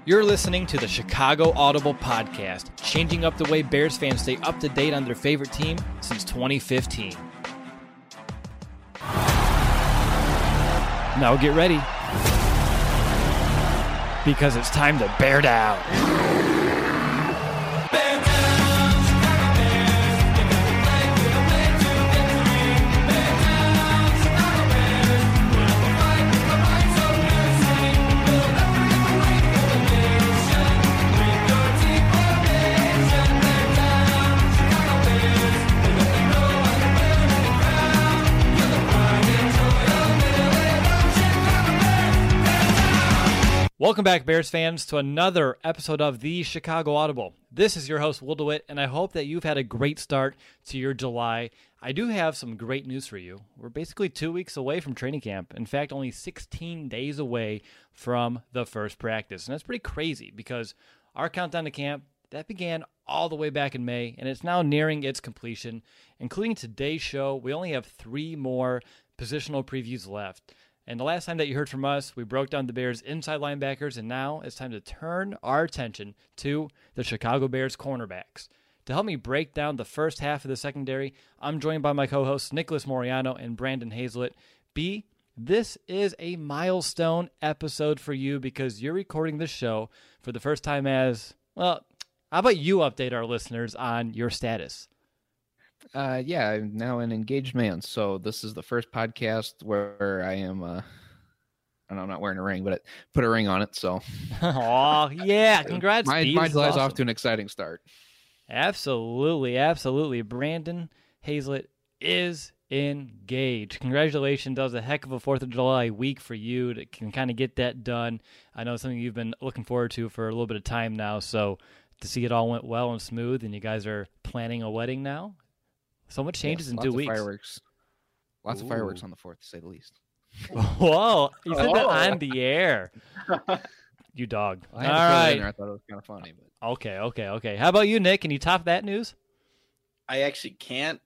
You're listening to the Chicago Audible Podcast, changing up the way Bears fans stay up to date on their favorite team since 2015. Now get ready, because it's time to bear down. Welcome back, Bears fans, to another episode of the Chicago Audible. This is your host, Will DeWitt, and I hope that you've had a great start to your July. I do have some great news for you. We're basically 2 weeks away from training camp. In fact, only 16 days away from the first practice. And that's pretty crazy because our countdown to camp, that began all the way back in May, and it's now nearing its completion. Including today's show, we only have 3 more positional previews left. And the last time that you heard from us, we broke down the Bears' inside linebackers, and now it's time to turn our attention to the Chicago Bears cornerbacks. To help me break down the first half of the secondary, I'm joined by my co-hosts Nicholas Moriano and Brandon Hazlett. B, this is a milestone episode for you because you're recording this show for the first time as, well, how about you update our listeners on your status? Yeah, I'm now an engaged man, so this is the first podcast where I am, and I'm not wearing a ring, but I put a ring on it, so. Oh, yeah, congrats, My July's awesome. off to an exciting start. Absolutely, absolutely. Brandon Hazlett is engaged. Congratulations. That was a heck of a 4th of July week for you to can kind of get that done. I know it's something you've been looking forward to for a little bit of time now, so to see it all went well and smooth, and you guys are planning a wedding now. So much changes in 2 weeks. Fireworks. Lots of fireworks on the 4th, to say the least. Whoa, you said that on the air. You dog. All right. I thought it was kind of funny. But. Okay. How about you, Nick? Can you top that news? I actually can't.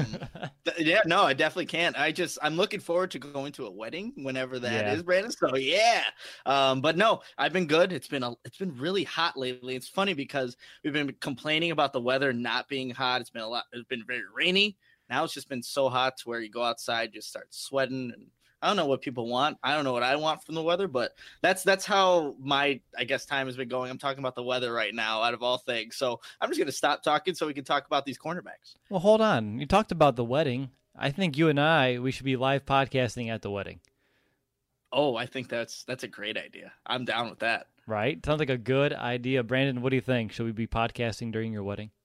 Yeah, no, I definitely can't. I'm looking forward to going to a wedding whenever that is, Brandon. So yeah. But no, I've been good. It's been really hot lately. It's funny because we've been complaining about the weather not being hot. It's been very rainy. Now it's just been so hot to where you go outside, just start sweating, and I don't know what people want. I don't know what I want from the weather, but that's how my, I guess, time has been going. I'm talking about the weather right now out of all things. So I'm just going to stop talking so we can talk about these cornerbacks. Well, hold on. You talked about the wedding. I think you and we should be live podcasting at the wedding. Oh, I think that's a great idea. I'm down with that. Right? Sounds like a good idea. Brandon, what do you think? Should we be podcasting during your wedding?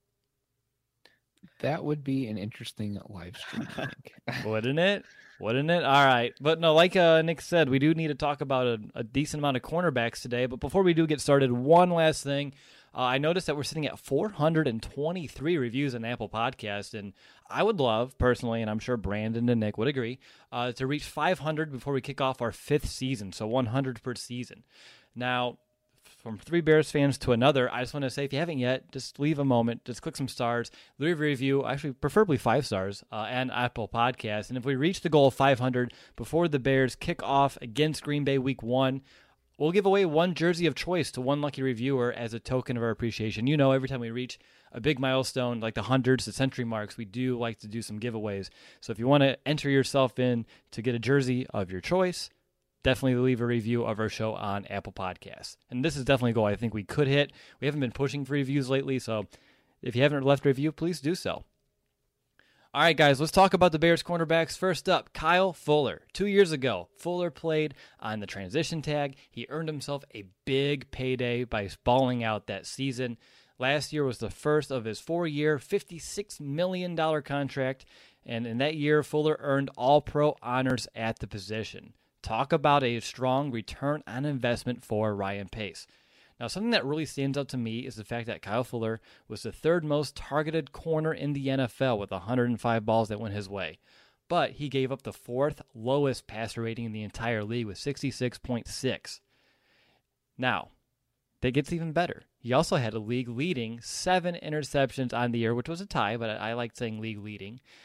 That would be an interesting live stream, I think. Wouldn't it? All right. But no, like Nick said, we do need to talk about a decent amount of cornerbacks today. But before we do get started, one last thing. I noticed that we're sitting at 423 reviews on Apple Podcast, and I would love, personally, and I'm sure Brandon and Nick would agree, to reach 500 before we kick off our 5th season, so 100 per season. Now, from 3 Bears fans to another, I just want to say, if you haven't yet, just leave a moment, just click some stars, leave a review, actually preferably 5 stars, and Apple Podcasts. And if we reach the goal of 500 before the Bears kick off against Green Bay Week 1, we'll give away 1 jersey of choice to 1 lucky reviewer as a token of our appreciation. You know, every time we reach a big milestone, like the hundreds, the century marks, we do like to do some giveaways. So if you want to enter yourself in to get a jersey of your choice, definitely leave a review of our show on Apple Podcasts. And this is definitely a goal I think we could hit. We haven't been pushing for reviews lately, so if you haven't left a review, please do so. All right, guys, let's talk about the Bears cornerbacks. First up, Kyle Fuller. 2 years ago, Fuller played on the transition tag. He earned himself a big payday by balling out that season. Last year was the first of his 4-year, $56 million contract, and in that year, Fuller earned All-Pro honors at the position. Talk about a strong return on investment for Ryan Pace. Now, something that really stands out to me is the fact that Kyle Fuller was the 3rd most targeted corner in the NFL with 105 balls that went his way. But he gave up the 4th lowest passer rating in the entire league with 66.6. Now, that gets even better. He also had a league-leading 7 interceptions on the year, which was a tie, but I like saying league-leading.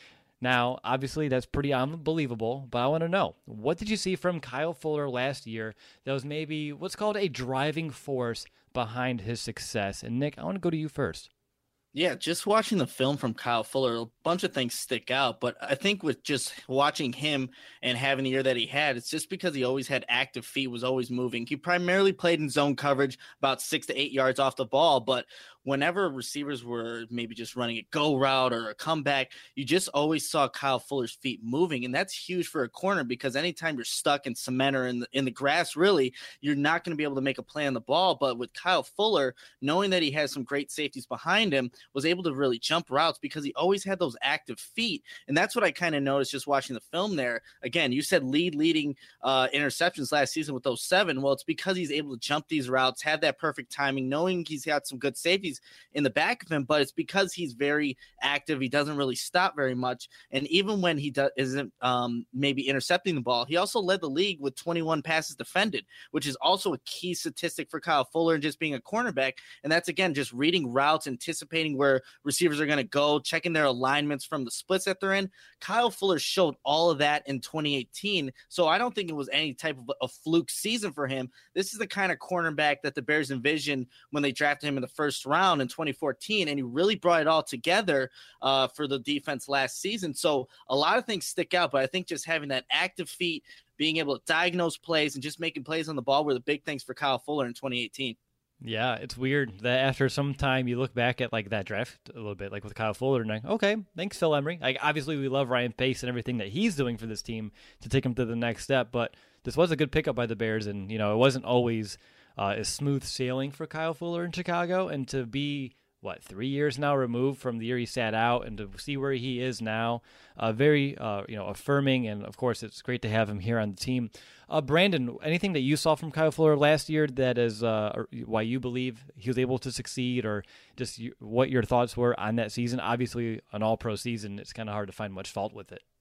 Now, obviously, that's pretty unbelievable, but I want to know, what did you see from Kyle Fuller last year that was maybe what's called a driving force behind his success? And Nick, I want to go to you first. Yeah, just watching the film from Kyle Fuller, a bunch of things stick out. But I think with just watching him and having the year that he had, it's just because he always had active feet, was always moving. He primarily played in zone coverage about 6 to 8 yards off the ball. But whenever receivers were maybe just running a go route or a comeback, you just always saw Kyle Fuller's feet moving. And that's huge for a corner because anytime you're stuck in cement or in the grass, really, you're not going to be able to make a play on the ball. But with Kyle Fuller, knowing that he has some great safeties behind him, was able to really jump routes because he always had those active feet. And that's what I kind of noticed just watching the film there. Again, you said leading interceptions last season with those 7. Well, it's because he's able to jump these routes, have that perfect timing, knowing he's got some good safeties in the back of him, but it's because he's very active. He doesn't really stop very much. And even when he isn't maybe intercepting the ball, he also led the league with 21 passes defended, which is also a key statistic for Kyle Fuller and just being a cornerback. And that's, again, just reading routes, anticipating where receivers are going to go, checking their alignments from the splits that they're in. Kyle Fuller showed all of that in 2018. So I don't think it was any type of a fluke season for him. This is the kind of cornerback that the Bears envisioned when they drafted him in the first round in 2014, and he really brought it all together for the defense last season. So a lot of things stick out, but I think just having that active feet, being able to diagnose plays, and just making plays on the ball were the big things for Kyle Fuller in 2018. Yeah, it's weird that after some time you look back at like that draft a little bit, like with Kyle Fuller, and like, okay, thanks Phil Emery. Like obviously we love Ryan Pace and everything that he's doing for this team to take him to the next step, but this was a good pickup by the Bears, and it wasn't always as smooth sailing for Kyle Fuller in Chicago, and to be 3 years now removed from the year he sat out and to see where he is now, very affirming, and of course it's great to have him here on the team. Brandon, anything that you saw from Kyle Fuller last year that is why you believe he was able to succeed, or just what your thoughts were on that season? Obviously an all-pro season, it's kind of hard to find much fault with it.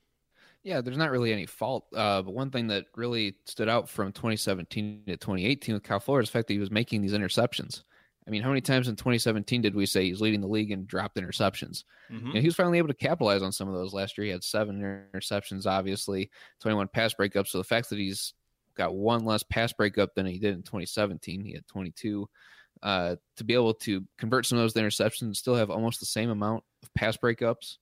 Yeah, there's not really any fault. But one thing that really stood out from 2017 to 2018 with Kyle Fuller is the fact that he was making these interceptions. I mean, how many times in 2017 did we say he's leading the league in dropped interceptions? Mm-hmm. He was finally able to capitalize on some of those. Last year he had 7 interceptions, obviously, 21 pass breakups. So the fact that he's got 1 less pass breakup than he did in 2017, he had 22. To be able to convert some of those interceptions and still have almost the same amount of pass breakups,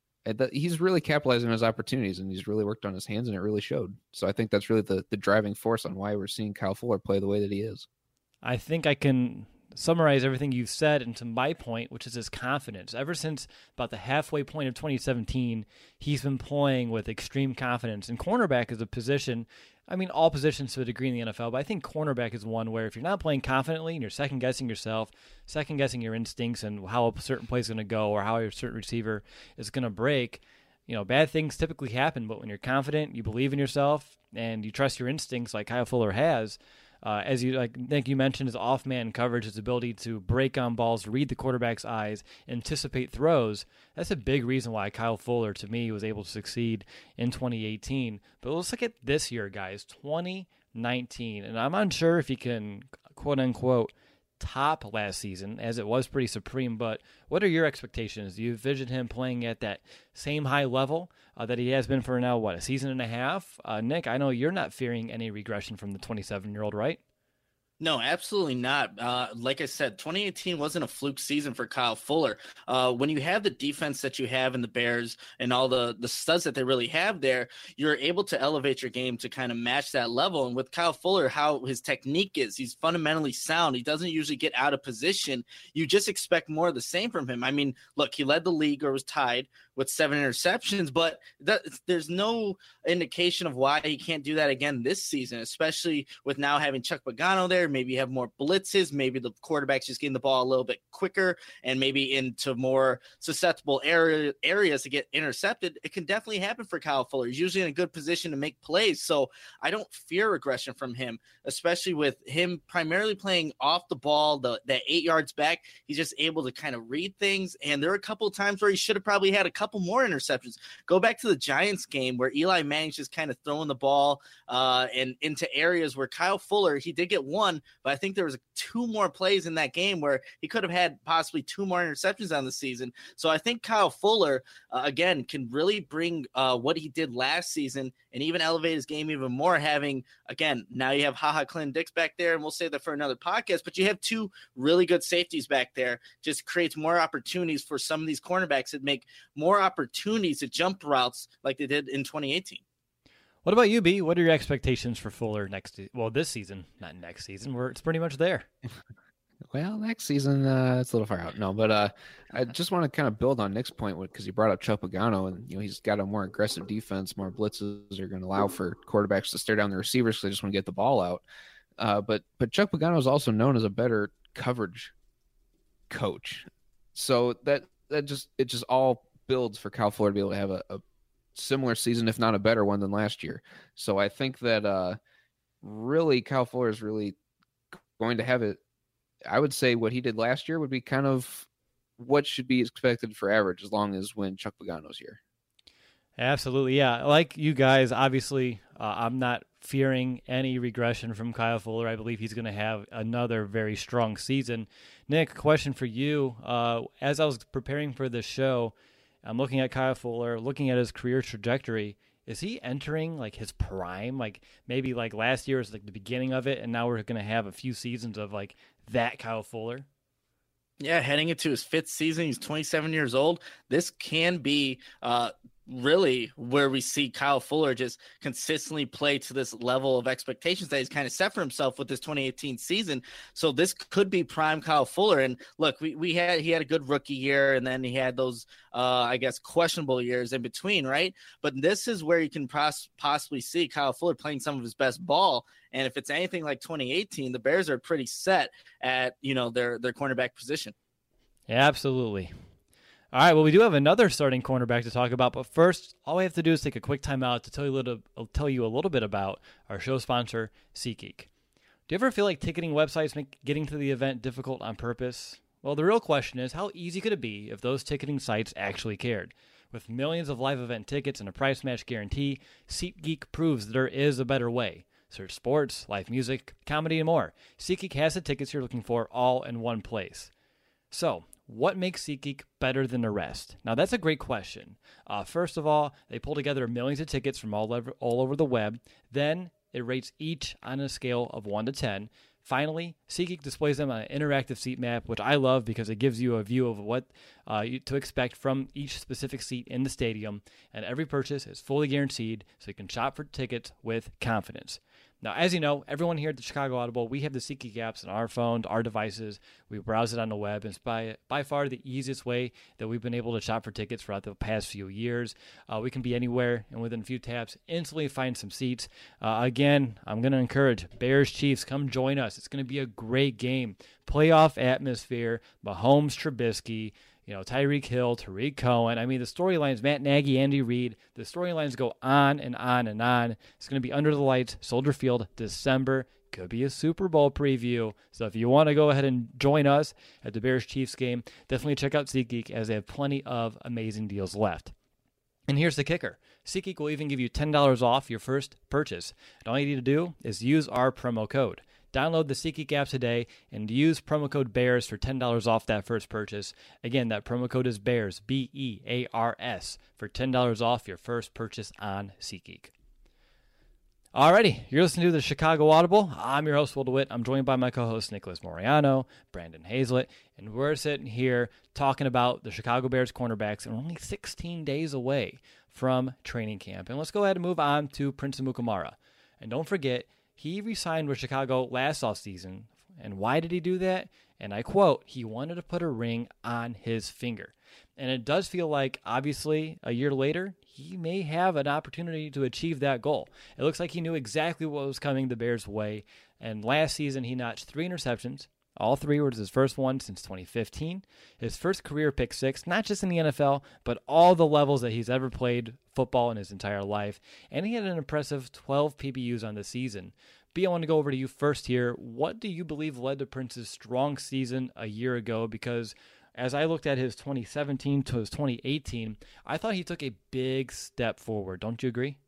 he's really capitalizing on his opportunities, and he's really worked on his hands, and it really showed. So I think that's really the driving force on why we're seeing Kyle Fuller play the way that he is. I think I can summarize everything you've said into my point, which is his confidence. Ever since about the halfway point of 2017, he's been playing with extreme confidence. And cornerback is a position, I mean, all positions to a degree in the NFL, but I think cornerback is one where if you're not playing confidently and you're second-guessing yourself, second-guessing your instincts and how a certain play is going to go or how a certain receiver is going to break, bad things typically happen. But when you're confident, you believe in yourself, and you trust your instincts like Kyle Fuller has, as Nick, you mentioned, his off-man coverage, his ability to break on balls, read the quarterback's eyes, anticipate throws. That's a big reason why Kyle Fuller, to me, was able to succeed in 2018. But let's look at this year, guys, 2019. And I'm unsure if he can, quote-unquote, top last season, as it was pretty supreme. But what are your expectations? Do you envision him playing at that same high level that he has been for now, a season and a half? Nick, I know you're not fearing any regression from the 27-year-old, right? No, absolutely not. Like I said, 2018 wasn't a fluke season for Kyle Fuller. When you have the defense that you have in the Bears and all the studs that they really have there, you're able to elevate your game to kind of match that level. And with Kyle Fuller, how his technique is, he's fundamentally sound. He doesn't usually get out of position. You just expect more of the same from him. I mean, look, he led the league or was tied with 7 interceptions, but there's no indication of why he can't do that again this season, especially with now having Chuck Pagano there. Maybe you have more blitzes. Maybe the quarterback's just getting the ball a little bit quicker and maybe into more susceptible areas to get intercepted. It can definitely happen for Kyle Fuller. He's usually in a good position to make plays. So I don't fear regression from him, especially with him primarily playing off the ball, that 8 yards back. He's just able to kind of read things. And there are a couple of times where he should have probably had a couple couple more interceptions. Go back to the Giants game where Eli Manning's just kind of throwing the ball and into areas where Kyle Fuller, he did get one, but I think there was 2 more plays in that game where he could have had possibly 2 more interceptions on the season. So I think Kyle Fuller, again, can really bring what he did last season and even elevate his game even more, having, again, now you have HaHa Clinton-Dix back there, and we'll save that for another podcast, but you have 2 really good safeties back there. Just creates more opportunities for some of these cornerbacks that make more opportunities to jump routes like they did in 2018. What about you, B? What are your expectations for Fuller this season? Not next season, where it's pretty much there. Well, next season, it's a little far out. No, but I just want to kind of build on Nick's point because he brought up Chuck Pagano, and he's got a more aggressive defense. More blitzes are going to allow for quarterbacks to stare down the receivers because they just want to get the ball out. But Chuck Pagano is also known as a better coverage coach, so that just all builds for Kyle Fuller to be able to have a similar season, if not a better one than last year. So I think that really Kyle Fuller is really going to have it. I would say what he did last year would be kind of what should be expected for average as long as when Chuck Pagano's here. Absolutely, yeah. Like you guys, obviously, I'm not fearing any regression from Kyle Fuller. I believe he's going to have another very strong season. Nick, question for you. As I was preparing for this show, I'm looking at Kyle Fuller, looking at his career trajectory. Is he entering like his prime? Like maybe like last year was like the beginning of it, and now we're going to have a few seasons of like that Kyle Fuller? Yeah, heading into his 5th season. He's 27 years old. This can be really where we see Kyle Fuller just consistently play to this level of expectations that he's kind of set for himself with this 2018 season. So this could be prime Kyle Fuller. And look, he had a good rookie year, and then he had those, I guess, questionable years in between, right? But this is where you can possibly see Kyle Fuller playing some of his best ball. And if it's anything like 2018, the Bears are pretty set at, their cornerback position. Yeah, absolutely. All right, well, we do have another starting cornerback to talk about, but first, all we have to do is take a quick time out to tell you a little bit about our show sponsor, SeatGeek. Do you ever feel like ticketing websites make getting to the event difficult on purpose? Well, the real question is, how easy could it be if those ticketing sites actually cared? With millions of live event tickets and a price match guarantee, SeatGeek proves that there is a better way. Search sports, live music, comedy, and more. SeatGeek has the tickets you're looking for all in one place. So, what makes SeatGeek better than the rest? Now, that's a great question. First of all, they pull together millions of tickets from all over the web. Then, it rates each on a scale of 1 to 10. Finally, SeatGeek displays them on an interactive seat map, which I love because it gives you a view of what to expect from each specific seat in the stadium. And every purchase is fully guaranteed, so you can shop for tickets with confidence. Now, as you know, everyone here at the Chicago Audible, we have the SeatGeek apps on our phones, our devices. We browse it on the web. It's by far the easiest way that we've been able to shop for tickets throughout the past few years. We can be anywhere, and within a few taps, instantly find some seats. Again, I'm going to encourage Bears-Chiefs, come join us. It's going to be a great game. Playoff atmosphere, Mahomes, Trubisky, Tyreek Hill, Tariq Cohen. I mean, the storylines, Matt Nagy, Andy Reid, the storylines go on and on and on. It's going to be under the lights, Soldier Field, December. Could be a Super Bowl preview. So if you want to go ahead and join us at the Bears-Chiefs game, definitely check out SeatGeek as they have plenty of amazing deals left. And here's the kicker. SeatGeek will even give you $10 off your first purchase. And all you need to do is use our promo code. Download the SeatGeek app today and use promo code BEARS for $10 off that first purchase. Again, that promo code is BEARS, BEARS, for $10 off your first purchase on SeatGeek. Alrighty, you're listening to the Chicago Audible. I'm your host, Will DeWitt. I'm joined by my co-hosts, Nicholas Moriano, Brandon Hazlett, and we're sitting here talking about the Chicago Bears cornerbacks, and we're only 16 days away from training camp. And let's go ahead and move on to Prince Amukamara. And don't forget, he re-signed with Chicago last offseason. And why did he do that? And I quote, he wanted to put a ring on his finger. And it does feel like, obviously, a year later, he may have an opportunity to achieve that goal. It looks like he knew exactly what was coming the Bears' way. And last season, he notched 3 interceptions. All 3 were his first one since 2015. His first career pick 6, not just in the NFL, but all the levels that he's ever played football in his entire life. And he had an impressive 12 PBUs on the season. B, I want to go over to you first here. What do you believe led to Prince's strong season a year ago? Because as I looked at his 2017 to his 2018, I thought he took a big step forward. Don't you agree?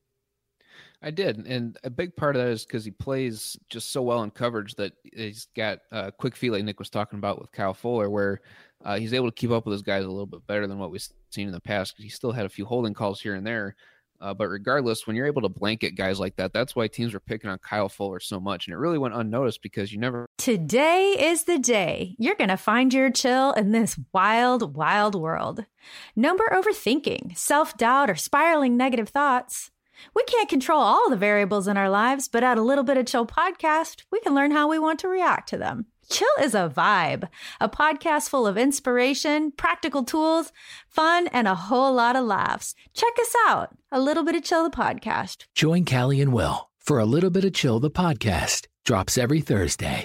I did, and a big part of that is because he plays just so well in coverage that he's got quick feet like Nick was talking about with Kyle Fuller, where he's able to keep up with his guys a little bit better than what we've seen in the past. He still had a few holding calls here and there, but regardless, when you're able to blanket guys like that, that's why teams were picking on Kyle Fuller so much, and it really went unnoticed because you never. Today is the day you're going to find your chill in this wild, wild world. No more overthinking, self-doubt, or spiraling negative thoughts. We can't control all the variables in our lives, but at A Little Bit of Chill podcast, we can learn how we want to react to them. Chill is a vibe, a podcast full of inspiration, practical tools, fun, and a whole lot of laughs. Check us out, A Little Bit of Chill, the podcast. Join Callie and Will for A Little Bit of Chill, the podcast. Drops every Thursday.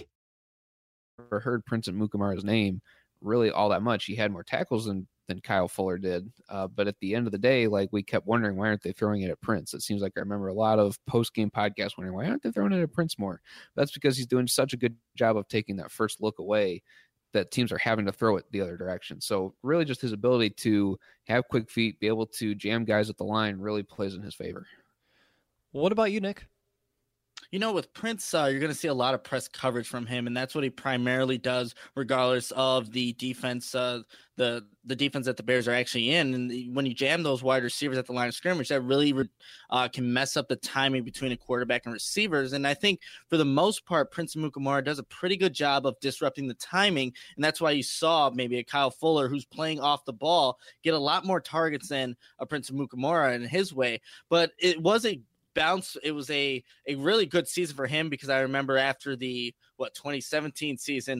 Or heard Prince Amukamara's name really all that much. He had more tackles than Kyle Fuller did. But at the end of the day, like, we kept wondering, why aren't they throwing it at Prince? It seems like I remember a lot of post-game podcasts wondering, why aren't they throwing it at Prince more? That's because he's doing such a good job of taking that first look away that teams are having to throw it the other direction. So really just his ability to have quick feet, be able to jam guys at the line really plays in his favor. What about you, Nick? You know, with Prince, you're going to see a lot of press coverage from him, and that's what he primarily does, regardless of the defense, the defense that the Bears are actually in. And when you jam those wide receivers at the line of scrimmage, that really can mess up the timing between a quarterback and receivers. And I think for the most part, Prince Amukamara does a pretty good job of disrupting the timing, and that's why you saw maybe a Kyle Fuller who's playing off the ball get a lot more targets than a Prince Amukamara in his way. But it was a bounce. It was a really good season for him, because I remember after the 2017 season,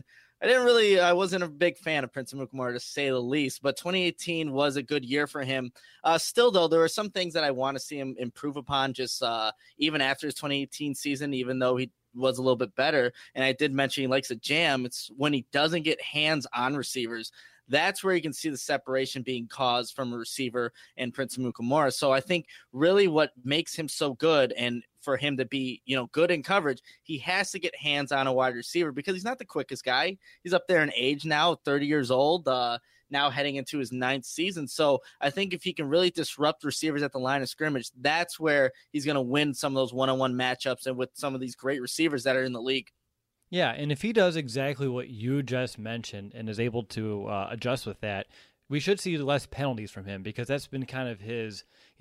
I wasn't a big fan of Prince Amukamara, to say the least, but 2018 was a good year for him. Still though, there were some things that I want to see him improve upon, just even after his 2018 season, even though he was a little bit better. And I did mention he likes a jam. It's when he doesn't get hands on receivers. That's where you can see the separation being caused from a receiver and Prince Amukamara. So I think really what makes him so good, and for him to be, good in coverage, he has to get hands on a wide receiver, because he's not the quickest guy. He's up there in age now, 30 years old, now heading into his 9th season. So I think if he can really disrupt receivers at the line of scrimmage, that's where he's going to win some of those one-on-one matchups and with some of these great receivers that are in the league. Yeah, and if he does exactly what you just mentioned and is able to adjust with that, we should see less penalties from him, because that's been kind of his,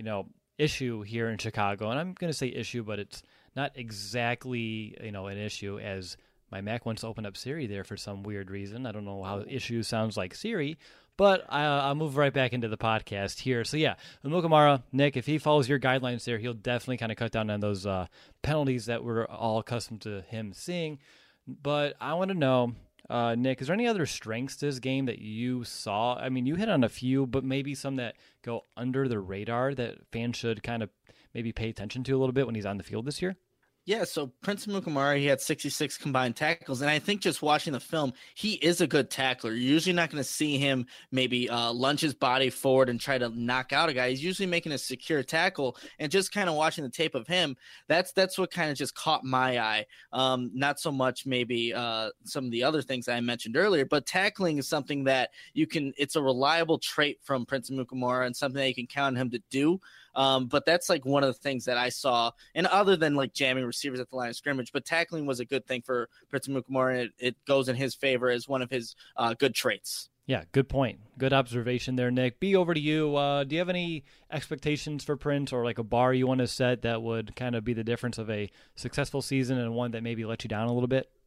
issue here in Chicago. And I'm going to say issue, but it's not exactly, an issue, as my Mac wants to open up Siri there for some weird reason. I don't know how issue sounds like Siri, but I'll move right back into the podcast here. So yeah, Amukamara, Nick, if he follows your guidelines there, he'll definitely kind of cut down on those penalties that we're all accustomed to him seeing. But I want to know, Nick, is there any other strengths to his game that you saw? I mean, you hit on a few, but maybe some that go under the radar that fans should kind of maybe pay attention to a little bit when he's on the field this year? Yeah, so Prince Amukamara, he had 66 combined tackles, and I think just watching the film, he is a good tackler. You're usually not going to see him maybe lunge his body forward and try to knock out a guy. He's usually making a secure tackle, and just kind of watching the tape of him, that's what kind of just caught my eye. Not so much maybe some of the other things I mentioned earlier, but tackling is something that it's a reliable trait from Prince Amukamara and something that you can count on him to do. But that's like one of the things that I saw, and other than like jamming receivers at the line of scrimmage, but tackling was a good thing for Prince Amukamara, and it goes in his favor as one of his good traits. Yeah, good point. Good observation there, Nick. B, over to you. Do you have any expectations for Prince, or like a bar you want to set that would kind of be the difference of a successful season and one that maybe let you down a little bit?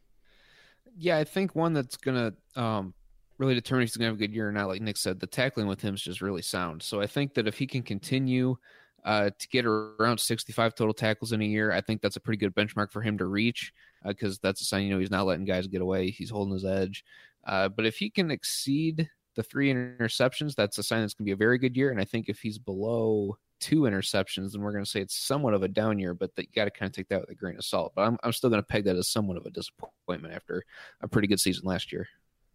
Yeah, I think one that's going to really determine if he's going to have a good year or not. Like Nick said, the tackling with him is just really sound. So I think that if he can continue to get around 65 total tackles in a year, I think that's a pretty good benchmark for him to reach, because that's a sign, he's not letting guys get away. He's holding his edge. But if he can exceed the 3 interceptions, that's a sign that's going to be a very good year. And I think if he's below 2 interceptions, then we're going to say it's somewhat of a down year, but you got to kind of take that with a grain of salt. But I'm still going to peg that as somewhat of a disappointment after a pretty good season last year.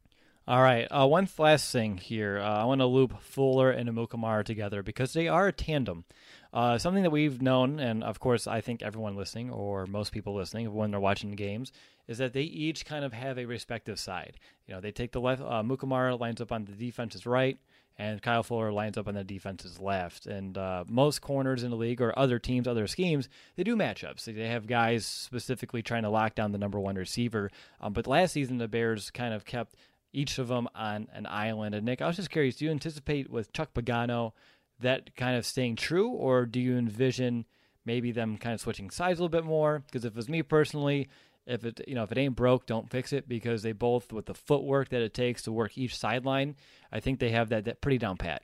All right, one last thing here. I want to loop Fuller and Amukamara together, because they are a tandem. Something that we've known, and of course I think everyone listening, or most people listening when they're watching the games, is that they each kind of have a respective side. They take the left, Mukamara lines up on the defense's right, and Kyle Fuller lines up on the defense's left. And most corners in the league, or other teams, other schemes, they do matchups. They have guys specifically trying to lock down the number one receiver. But last season, the Bears kind of kept each of them on an island. And Nick, I was just curious, do you anticipate with Chuck Pagano that kind of staying true, or do you envision maybe them kind of switching sides a little bit more? Because if it was me personally, if it ain't broke, don't fix it, because they both, with the footwork that it takes to work each sideline, I think they have that pretty down pat.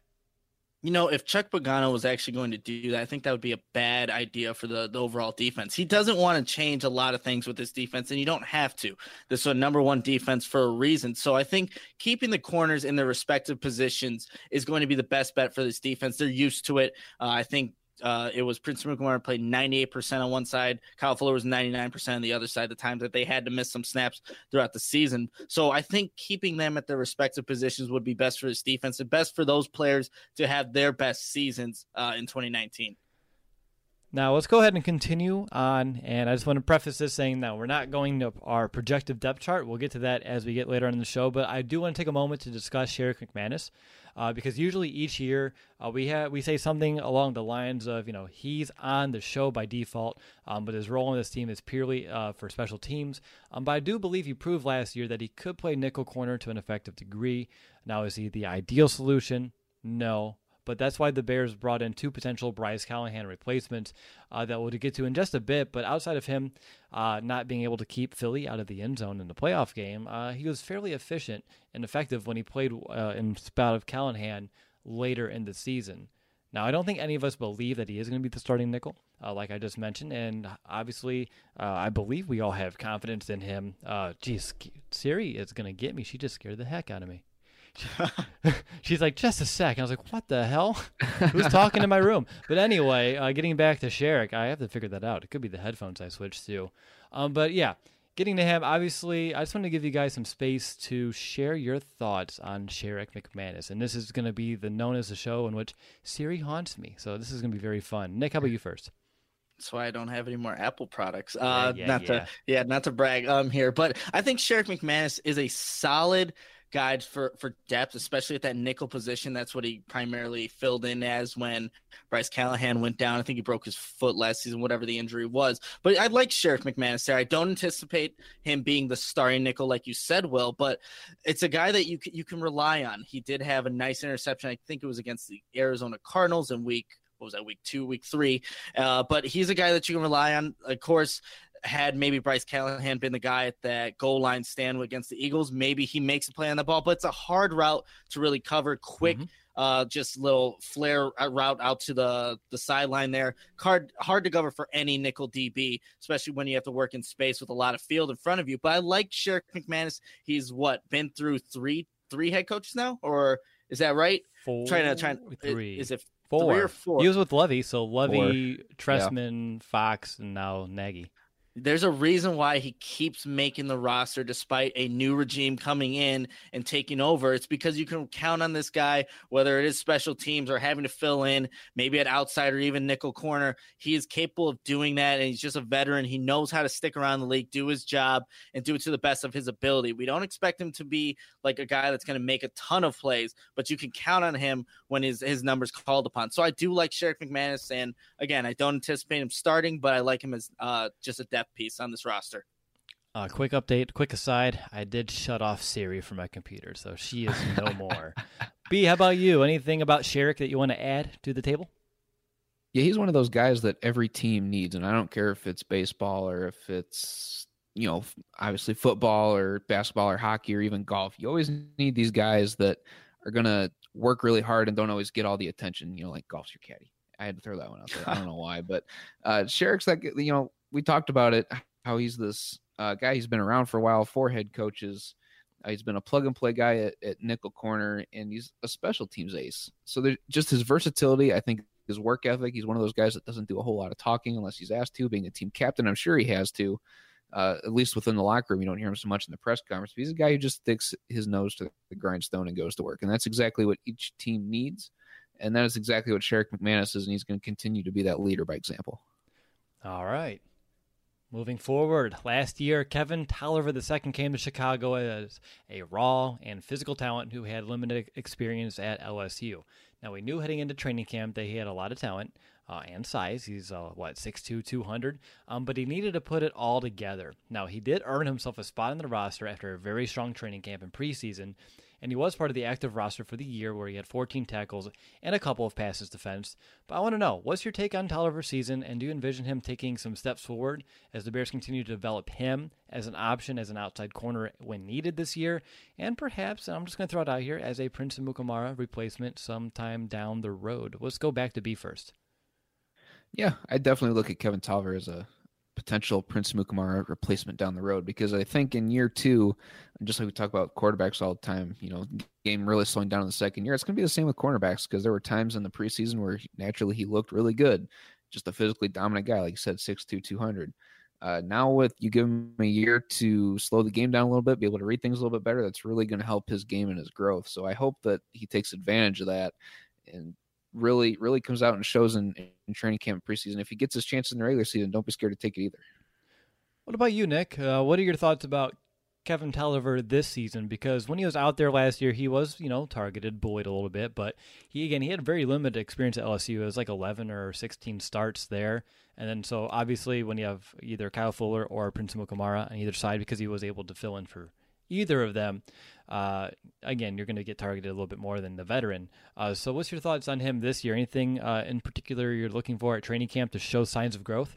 If Chuck Pagano was actually going to do that, I think that would be a bad idea for the overall defense. He doesn't want to change a lot of things with this defense, and you don't have to. This is a number one defense for a reason. So I think keeping the corners in their respective positions is going to be the best bet for this defense. They're used to it. I think it was Prince Mukamara played 98% on one side. Kyle Fuller was 99% on the other side, the times that they had to miss some snaps throughout the season. So I think keeping them at their respective positions would be best for this defense and best for those players to have their best seasons in 2019. Now, let's go ahead and continue on, and I just want to preface this saying that we're not going to our projected depth chart. We'll get to that as we get later on in the show, but I do want to take a moment to discuss Sherrick McManus, because usually each year we say something along the lines of, he's on the show by default, but his role in this team is purely for special teams. But I do believe he proved last year that he could play nickel corner to an effective degree. Now, is he the ideal solution? No. But that's why the Bears brought in two potential Bryce Callahan replacements that we'll get to in just a bit. But outside of him not being able to keep Philly out of the end zone in the playoff game, he was fairly efficient and effective when he played in spot of Callahan later in the season. Now, I don't think any of us believe that he is going to be the starting nickel, like I just mentioned. And obviously, I believe we all have confidence in him. Siri is going to get me. She just scared the heck out of me. She's like, just a sec. I was like, what the hell? Who's talking in my room? But anyway, getting back to Sherrick, I have to figure that out. It could be the headphones I switched to. But yeah, getting to him, obviously, I just want to give you guys some space to share your thoughts on Sherrick McManus. And this is going to be known as the show in which Siri haunts me. So this is going to be very fun. Nick, how about you first? That's why I don't have any more Apple products. Not to brag here, but I think Sherrick McManus is a solid guide for depth, especially at that nickel position. That's what he primarily filled in as when Bryce Callahan went down. I think he broke his foot last season, whatever the injury was. But I like Sherrick McManus there. I don't anticipate him being the starting nickel like you said, Will, but it's a guy that you can rely on. He did have a nice interception. I think it was against the Arizona Cardinals in week 2, week 3. But he's a guy that you can rely on. Of course, had maybe Bryce Callahan been the guy at that goal line stand against the Eagles, maybe he makes a play on the ball, but it's a hard route to really cover quick, just little flare route out to the sideline there. Hard to cover for any nickel DB, especially when you have to work in space with a lot of field in front of you. But I like Sherrick McManus. He's been through three head coaches now, or is that right? Three. Is it 4 3 or 4? He was with Levy, so Levy, Trestman, Fox, and now Nagy. There's a reason why he keeps making the roster despite a new regime coming in and taking over. It's because you can count on this guy, whether it is special teams or having to fill in, maybe at outside or even nickel corner. He is capable of doing that, and he's just a veteran. He knows how to stick around the league, do his job, and do it to the best of his ability. We don't expect him to be like a guy that's going to make a ton of plays, but you can count on him when his numbers called upon. So I do like Sherrick McManus, and again, I don't anticipate him starting, but I like him as just a depth piece on this roster. Quick update, quick aside, I did shut off Siri from my computer, so she is no more. B, how about you? Anything about Sherrick that you want to add to the table? Yeah, he's one of those guys that every team needs, and I don't care if it's baseball or if it's, obviously football or basketball or hockey or even golf. You always need these guys that are going to work really hard and don't always get all the attention, like golf's your caddy. I had to throw that one out there. I don't know why, but Sherrick's like, we talked about it, how he's this guy. He's been around for a while, 4 head coaches. He's been a plug-and-play guy at nickel corner, and he's a special teams ace. So there's just his versatility, I think his work ethic. He's one of those guys that doesn't do a whole lot of talking unless he's asked to. Being a team captain, I'm sure he has to, at least within the locker room. You don't hear him so much in the press conference. But he's a guy who just sticks his nose to the grindstone and goes to work, and that's exactly what each team needs. And that is exactly what Sherrick McManus is, and he's going to continue to be that leader by example. All right. Moving forward, last year, Kevin Tolliver II came to Chicago as a raw and physical talent who had limited experience at LSU. Now, we knew heading into training camp that he had a lot of talent and size. He's, 6'2", 200, but he needed to put it all together. Now, he did earn himself a spot on the roster after a very strong training camp and preseason, and he was part of the active roster for the year where he had 14 tackles and a couple of passes defensed. But I want to know, what's your take on Tolliver's season, and do you envision him taking some steps forward as the Bears continue to develop him as an option as an outside corner when needed this year, and perhaps, and I'm just going to throw it out here, as a Prince Amukamara replacement sometime down the road? Let's go back to B first. Yeah, I definitely look at Kevin Tolliver as a potential Prince Amukamara replacement down the road, because I think in year 2, just like we talk about quarterbacks all the time, game really slowing down in the second year, it's going to be the same with cornerbacks, because there were times in the preseason where naturally he looked really good, just a physically dominant guy, like you said, 6'2", 200. Now with you give him a year to slow the game down a little bit, be able to read things a little bit better, that's really going to help his game and his growth. So I hope that he takes advantage of that and really comes out and shows in training camp preseason. If he gets his chances in the regular season, don't be scared to take it either. What about you, Nick? What are your thoughts about Kevin Tolliver this season? Because when he was out there last year, he was, targeted, bullied a little bit, but he had very limited experience at LSU. It was like 11 or 16 starts there. And then so obviously when you have either Kyle Fuller or Prince Amukamara on either side, because he was able to fill in for either of them, again, you're going to get targeted a little bit more than the veteran. So what's your thoughts on him this year? Anything in particular you're looking for at training camp to show signs of growth?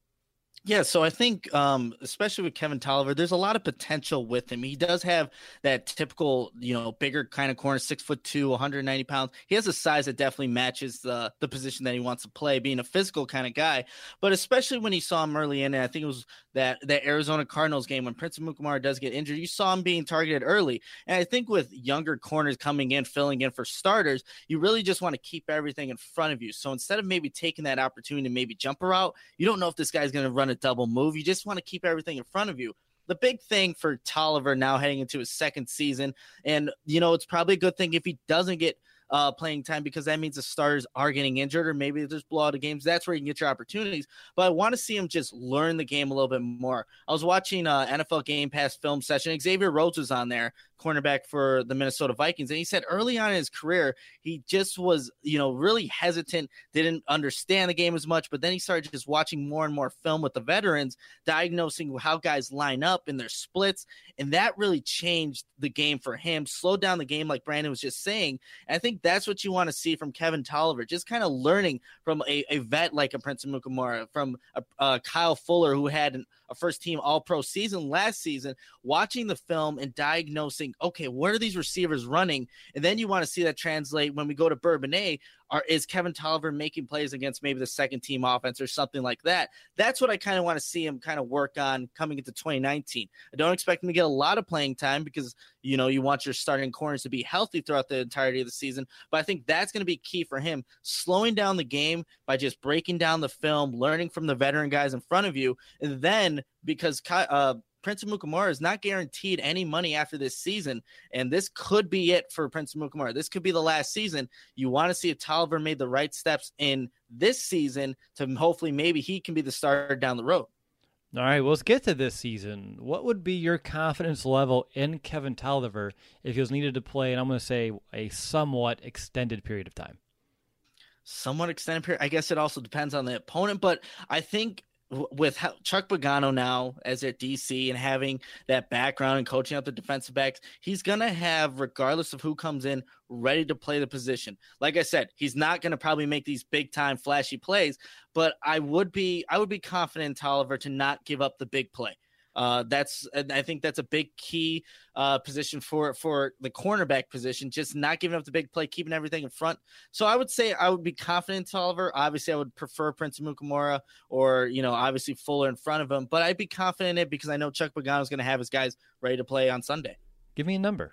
Yeah, so I think, especially with Kevin Tolliver, there's a lot of potential with him. He does have that typical, bigger kind of corner, 6'2", 190 pounds. He has a size that definitely matches the position that he wants to play, being a physical kind of guy. But especially when you saw him early in, and I think it was that Arizona Cardinals game when Prince Amukamara does get injured, you saw him being targeted early. And I think with younger corners coming in, filling in for starters, you really just want to keep everything in front of you. So instead of maybe taking that opportunity to maybe jump a route, you don't know if this guy's going to run a double move. You just want to keep everything in front of you. The big thing for Tolliver now heading into his second season, and it's probably a good thing if he doesn't get playing time, because that means the starters are getting injured, or maybe there's blowout of games. That's where you can get your opportunities. But I want to see him just learn the game a little bit more. I was watching NFL Game Pass film session. Xavier Rhodes was on there, cornerback for the Minnesota Vikings, and he said early on in his career he just was really hesitant, didn't understand the game as much, but then he started just watching more and more film with the veterans, diagnosing how guys line up in their splits, and that really changed the game for him, slowed down the game like Brandon was just saying. And I think that's what you want to see from Kevin Tolliver, just kind of learning from a vet like a Prince Amukamara, from a Kyle Fuller, who had a first-team All-Pro season last season, watching the film and diagnosing, okay, where are these receivers running? And then you want to see that translate when we go to Bourbonnais. Is Kevin Tolliver making plays against maybe the second-team offense or something like that? That's what I kind of want to see him kind of work on coming into 2019. I don't expect him to get a lot of playing time because, you want your starting corners to be healthy throughout the entirety of the season. But I think that's going to be key for him, slowing down the game by just breaking down the film, learning from the veteran guys in front of you. And then because Prince Amukamara is not guaranteed any money after this season, and this could be it for Prince Amukamara. This could be the last season. You want to see if Tolliver made the right steps in this season to hopefully maybe he can be the starter down the road. All right, well, let's get to this season. What would be your confidence level in Kevin Tolliver if he was needed to play, and I'm going to say a somewhat extended period of time? Somewhat extended period. I guess it also depends on the opponent, but I think with Chuck Pagano now as their DC and having that background and coaching up the defensive backs, he's going to have, regardless of who comes in, ready to play the position. Like I said, he's not going to probably make these big time flashy plays, but I would be confident in Tolliver to not give up the big play. I think that's a big key position for the cornerback position, just not giving up the big play, keeping everything in front. So I would say I would be confident in Tolliver. Obviously, I would prefer Prince Amukamara or, obviously Fuller in front of him, but I'd be confident in it because I know Chuck Pagano is going to have his guys ready to play on Sunday. Give me a number.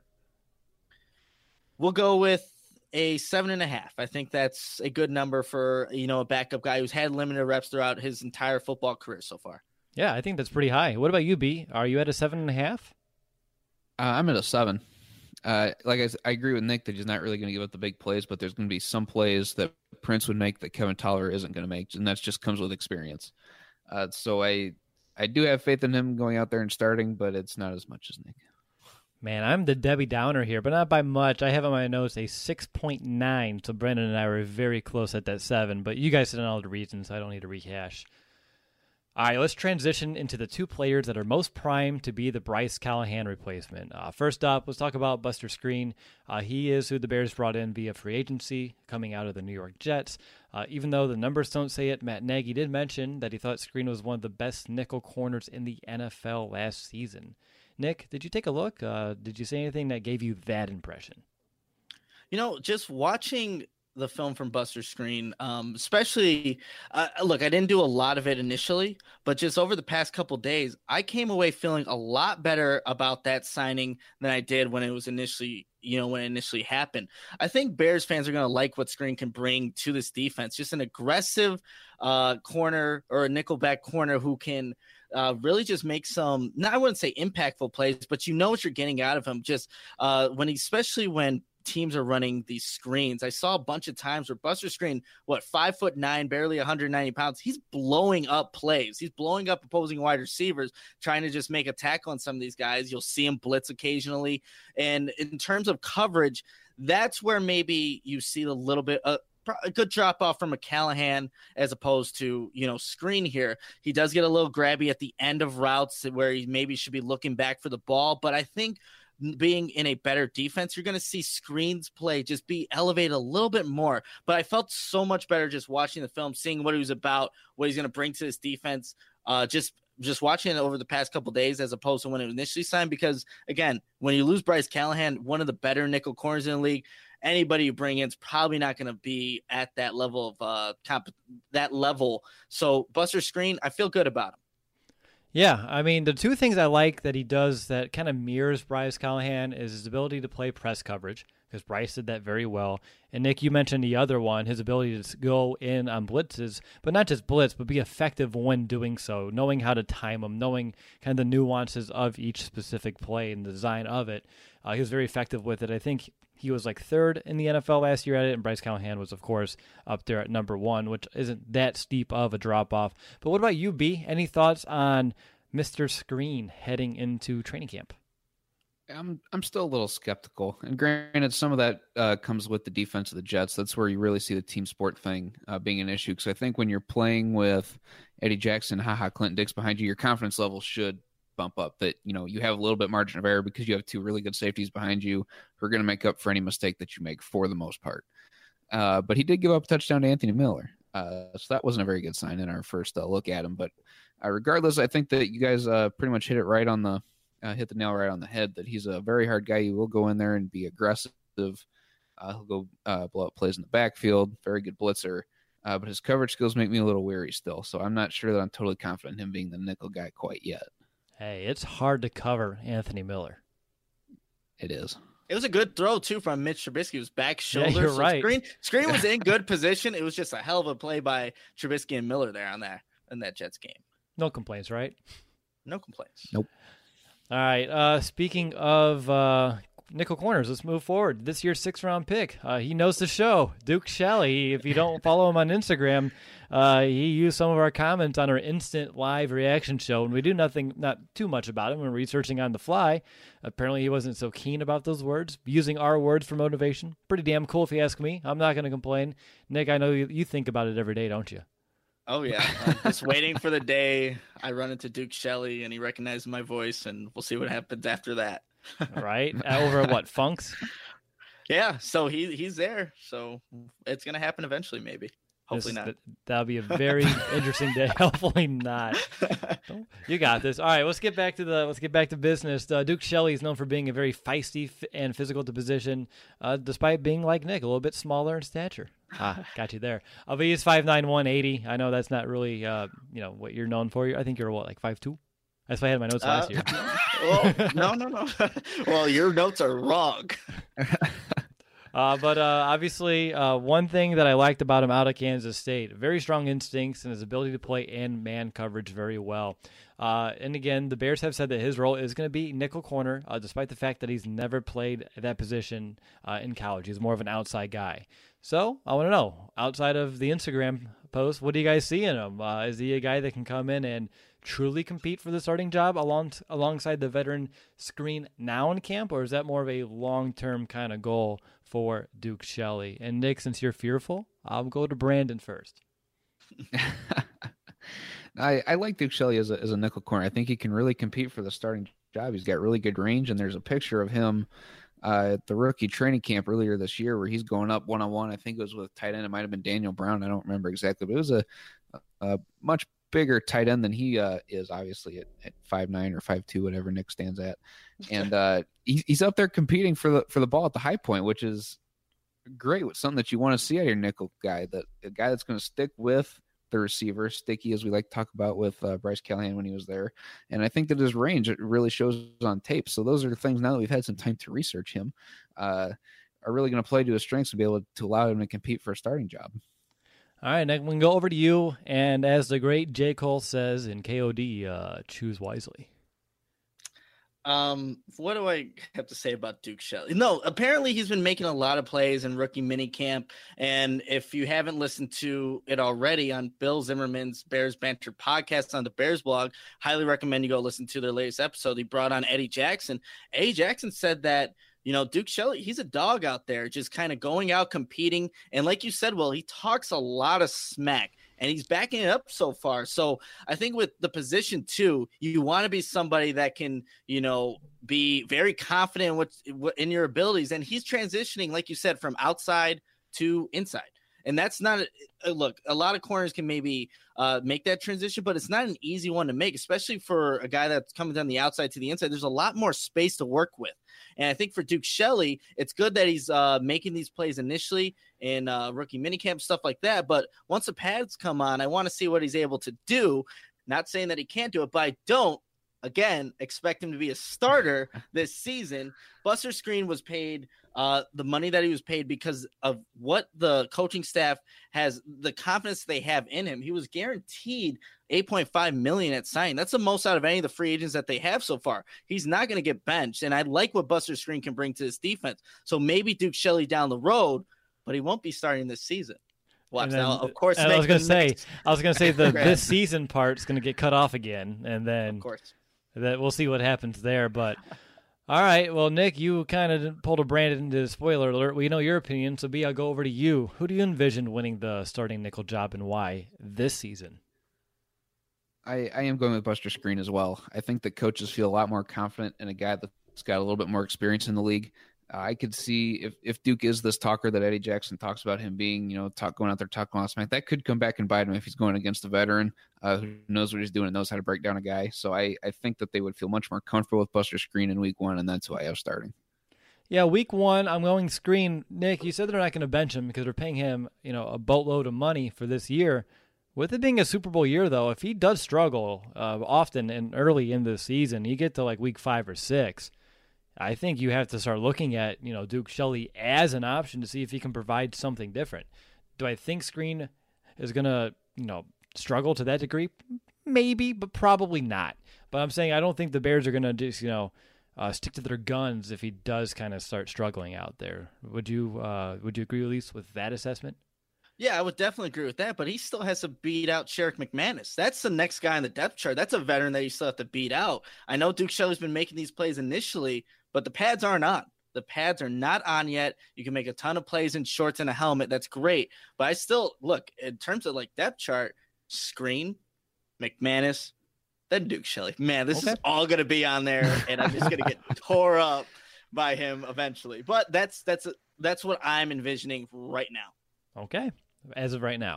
We'll go with a 7.5. I think that's a good number for, a backup guy who's had limited reps throughout his entire football career so far. Yeah, I think that's pretty high. What about you, B? Are you at a 7.5? I'm at a 7. I agree with Nick that he's not really going to give up the big plays, but there's going to be some plays that Prince would make that Kevin Toller isn't going to make, and that just comes with experience. So I do have faith in him going out there and starting, but it's not as much as Nick. Man, I'm the Debbie Downer here, but not by much. I have on my notes a 6.9, so Brandon and I were very close at that 7, but you guys said all the reasons, so I don't need to rehash. All right, let's transition into the 2 players that are most primed to be the Bryce Callahan replacement. First up, let's talk about Buster Skrine. He is who the Bears brought in via free agency, coming out of the New York Jets. Even though the numbers don't say it, Matt Nagy did mention that he thought Skrine was one of the best nickel corners in the NFL last season. Nick, did you take a look? Did you see anything that gave you that impression? Just watching the film from Buster Skrine, especially, look, I didn't do a lot of it initially, but just over the past couple days, I came away feeling a lot better about that signing than I did when it was initially, when it initially happened. I think Bears fans are going to like what Skrine can bring to this defense, just an aggressive corner or a nickelback corner who can really just make some, I wouldn't say impactful plays, but what you're getting out of him. Just especially when teams are running these screens. I saw a bunch of times where Buster Skrine, 5'9", barely 190 pounds. He's blowing up plays. He's blowing up opposing wide receivers, trying to just make a tackle on some of these guys. You'll see him blitz occasionally. And in terms of coverage, that's where maybe you see a little bit a good drop off from a Callahan as opposed to, Skrine here. He does get a little grabby at the end of routes where he maybe should be looking back for the ball. But I think being in a better defense, you're going to see Skrine's play just be elevated a little bit more. But I felt so much better just watching the film, seeing what he was about, what he's going to bring to this defense. Just watching it over the past couple of days as opposed to when it was initially signed. Because again, when you lose Bryce Callahan, one of the better nickel corners in the league, anybody you bring in is probably not going to be at that level of that level. So Buster Skrine, I feel good about him. Yeah, I mean, the 2 things I like that he does that kind of mirrors Bryce Callahan is his ability to play press coverage, because Bryce did that very well. And Nick, you mentioned the other one, his ability to go in on blitzes, but not just blitz, but be effective when doing so, knowing how to time them, knowing kind of the nuances of each specific play and the design of it. He was very effective with it. I think he was like 3rd in the NFL last year at it, and Bryce Callahan was, of course, up there at number 1, which isn't that steep of a drop-off. But what about you, B? Any thoughts on Mr. Skrine heading into training camp? I'm still a little skeptical. And granted, some of that comes with the defense of the Jets. That's where you really see the team sport thing being an issue. Because I think when you're playing with Eddie Jackson, Clinton Dix behind you, your confidence level should bump up. That, you have a little bit margin of error because you have 2 really good safeties behind you who are going to make up for any mistake that you make for the most part. But he did give up a touchdown to Anthony Miller. So that wasn't a very good sign in our first look at him. But regardless, I think that you guys pretty much hit the nail right on the head, that he's a very hard guy. He will go in there and be aggressive. He'll go blow up plays in the backfield. Very good blitzer. But his coverage skills make me a little weary still. So I'm not sure that I'm totally confident in him being the nickel guy quite yet. Hey, it's hard to cover Anthony Miller. It is. It was a good throw, too, from Mitch Trubisky. It was back shoulder. Yeah, you're right. Skrine was in good position. It was just a hell of a play by Trubisky and Miller there in that Jets game. No complaints, right? No complaints. Nope. All right. Speaking of nickel corners, let's move forward. This year's 6th-round pick. He knows the show. Duke Shelley. If you don't follow him on Instagram, he used some of our comments on our instant live reaction show, and we do not too much about him. We're researching on the fly. Apparently, he wasn't so keen about those words. Using our words for motivation. Pretty damn cool if you ask me. I'm not going to complain. Nick, I know you think about it every day, don't you? Oh, yeah. I'm just waiting for the day I run into Duke Shelley and he recognizes my voice, and we'll see what happens after that. Right? Over at what, Funks? Yeah, so he's there. So it's going to happen eventually, maybe. Hopefully not. That'll be a very interesting day. Hopefully not. You got this. All right, let's get back to business. Duke Shelley is known for being a very feisty and physical to position, despite being like Nick, a little bit smaller in stature. Got you there. But he's 5'9", 180. I know that's not really what you're known for. I think you're like 5'2". That's why I had my notes last year. Well, no. Well, your notes are wrong. But obviously, one thing that I liked about him out of Kansas State, very strong instincts and his ability to play in man coverage very well. And again, the Bears have said that his role is going to be nickel corner, despite the fact that he's never played that position in college. He's more of an outside guy. So I want to know, outside of the Instagram post, what do you guys see in him? Is he a guy that can come in and truly compete for the starting job alongside the veteran Screen now in camp, or is that more of a long-term kind of goal for Duke Shelley? And Nick, since you're fearful, I'll go to Brandon first. I like Duke Shelley as a nickel corner. I think he can really compete for the starting job. He's got really good range, and there's a picture of him at the rookie training camp earlier this year where he's going up one-on-one. I think it was with tight end. It might have been Daniel Brown. I don't remember exactly, but it was a much bigger tight end than he is, obviously at 5'9" or 5'2", whatever Nick stands at. And he's up there competing for the ball at the high point, which is great. With something that you want to see out of your nickel guy, a guy that's going to stick with the receiver, sticky, as we like to talk about with Bryce Callahan when he was there. And I think that his range, it really shows on tape. So those are the things, now that we've had some time to research him, are really going to play to his strengths to be able to allow him to compete for a starting job. All right, Nick, we can go over to you. And as the great J. Cole says in KOD, choose wisely. What do I have to say about Duke Shelley? No, apparently he's been making a lot of plays in rookie minicamp. And if you haven't listened to it already on Bill Zimmerman's Bears Banter podcast on the Bears blog, highly recommend you go listen to their latest episode. He brought on Eddie Jackson. Eddie Jackson said that, Duke Shelley, he's a dog out there, just kind of going out competing. And like you said, Will, he talks a lot of smack. And he's backing it up so far. So I think with the position too, you want to be somebody that can, be very confident in your abilities. And he's transitioning, like you said, from outside to inside. And that's not look, a lot of corners can maybe make that transition, but it's not an easy one to make, especially for a guy that's coming down the outside to the inside. There's a lot more space to work with. And I think for Duke Shelley, it's good that he's making these plays initially in rookie minicamp, stuff like that. But once the pads come on, I want to see what he's able to do. Not saying that he can't do it, but I don't, again, expect him to be a starter this season. Buster Skrine was paid the money that he was paid because of what the coaching staff has, the confidence they have in him. He was guaranteed $8.5 million at signing. That's the most out of any of the free agents that they have so far. He's not going to get benched, and I like what Buster Skrine can bring to this defense. So maybe Duke Shelley down the road, but he won't be starting this season. Watch then, now, of course. I was going to say this season part is going to get cut off again, and then of course that we'll see what happens there. But all right, well, Nick, you kind of pulled a Brandon into the spoiler alert. We know your opinion, so B, I'll go over to you. Who do you envision winning the starting nickel job and why this season? I am going with Buster Skrine as well. I think that coaches feel a lot more confident in a guy that's got a little bit more experience in the league. I could see if Duke is this talker that Eddie Jackson talks about him being, going out there talking last night, that could come back and bite him if he's going against a veteran who knows what he's doing and knows how to break down a guy. So I think that they would feel much more comfortable with Buster Skrine in week one, and that's who I have starting. Yeah, week one, I'm going Skrine. Nick, you said they're not going to bench him because they're paying him, a boatload of money for this year. With it being a Super Bowl year, though, if he does struggle often and early in the season, you get to like week 5 or 6, I think you have to start looking at, Duke Shelley as an option to see if he can provide something different. Do I think Skrine is going to, struggle to that degree? Maybe, but probably not. But I'm saying I don't think the Bears are going to just, stick to their guns if he does kind of start struggling out there. Would you agree at least with that assessment? Yeah, I would definitely agree with that, but he still has to beat out Sherrick McManus. That's the next guy on the depth chart. That's a veteran that you still have to beat out. I know Duke Shelley's been making these plays initially, but the pads aren't on. The pads are not on yet. You can make a ton of plays in shorts and a helmet. That's great. But I still, look, in terms of like depth chart, Skrine, McManus, then Duke Shelley. Man, this is all going to be on there, and I'm just going to get tore up by him eventually. But that's what I'm envisioning right now. Okay. As of right now.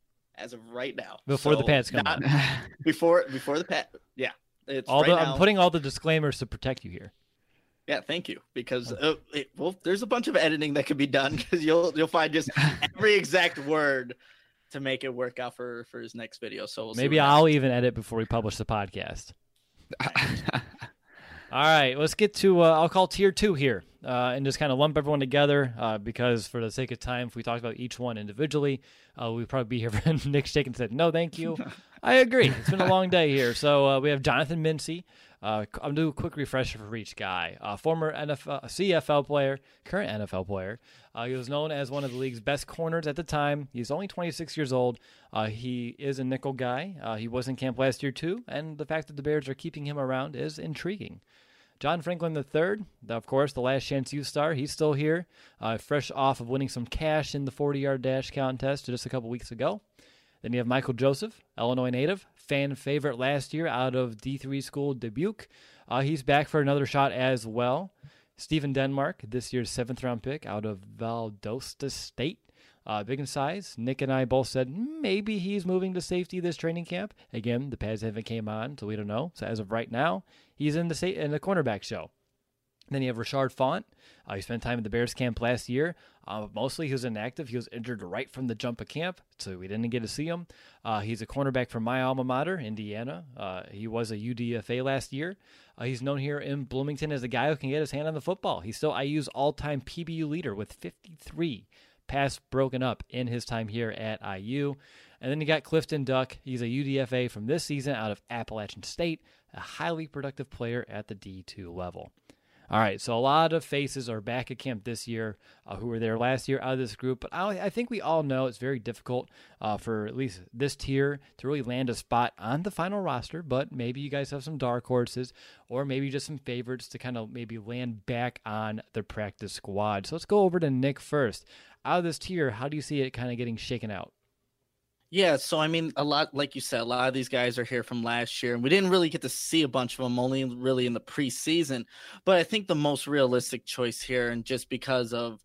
Before the pads come on. Before the pad. Yeah. It's I'm putting all the disclaimers to protect you here. Yeah, thank you. Because there's a bunch of editing that could be done because you'll find just every exact word to make it work out for his next video. So maybe I'll even edit before we publish the podcast. All right, let's get to I'll call tier 2 here. and just kind of lump everyone together because for the sake of time, if we talked about each one individually, we'd probably be here for Nick Shaken said, no, thank you. I agree. It's been a long day here. So we have Jonathan Mincy. I'm going to do a quick refresher for each guy. Former CFL player, current NFL player. He was known as one of the league's best corners at the time. He's only 26 years old. He is a nickel guy. He was in camp last year too, and the fact that the Bears are keeping him around is intriguing. John Franklin III, of course, the Last Chance U star. He's still here, fresh off of winning some cash in the 40-yard dash contest just a couple weeks ago. Then you have Michael Joseph, Illinois native, fan favorite last year out of D3 school Dubuque. He's back for another shot as well. Stephen Denmark, this year's 7th-round pick out of Valdosta State. Big in size. Nick and I both said maybe he's moving to safety this training camp. Again, the pads haven't came on, so we don't know. So as of right now, he's in the cornerback show. Then you have Rashard Font. He spent time at the Bears camp last year. Mostly he was inactive. He was injured right from the jump of camp, so we didn't get to see him. He's a cornerback from my alma mater, Indiana. He was a UDFA last year. He's known here in Bloomington as a guy who can get his hand on the football. He's still IU's all-time PBU leader with 53 pass broken up in his time here at IU. And then you got Clifton Duck. He's a UDFA from this season out of Appalachian State, a highly productive player at the D2 level. All right, so a lot of faces are back at camp this year who were there last year out of this group. But I think we all know it's very difficult for at least this tier to really land a spot on the final roster. But maybe you guys have some dark horses or maybe just some favorites to kind of maybe land back on the practice squad. So let's go over to Nick first. Out of this tier, how do you see it kind of getting shaken out? Yeah, so I mean, a lot, like you said, a lot of these guys are here from last year, and we didn't really get to see a bunch of them, only really in the preseason. But I think the most realistic choice here, and just because of,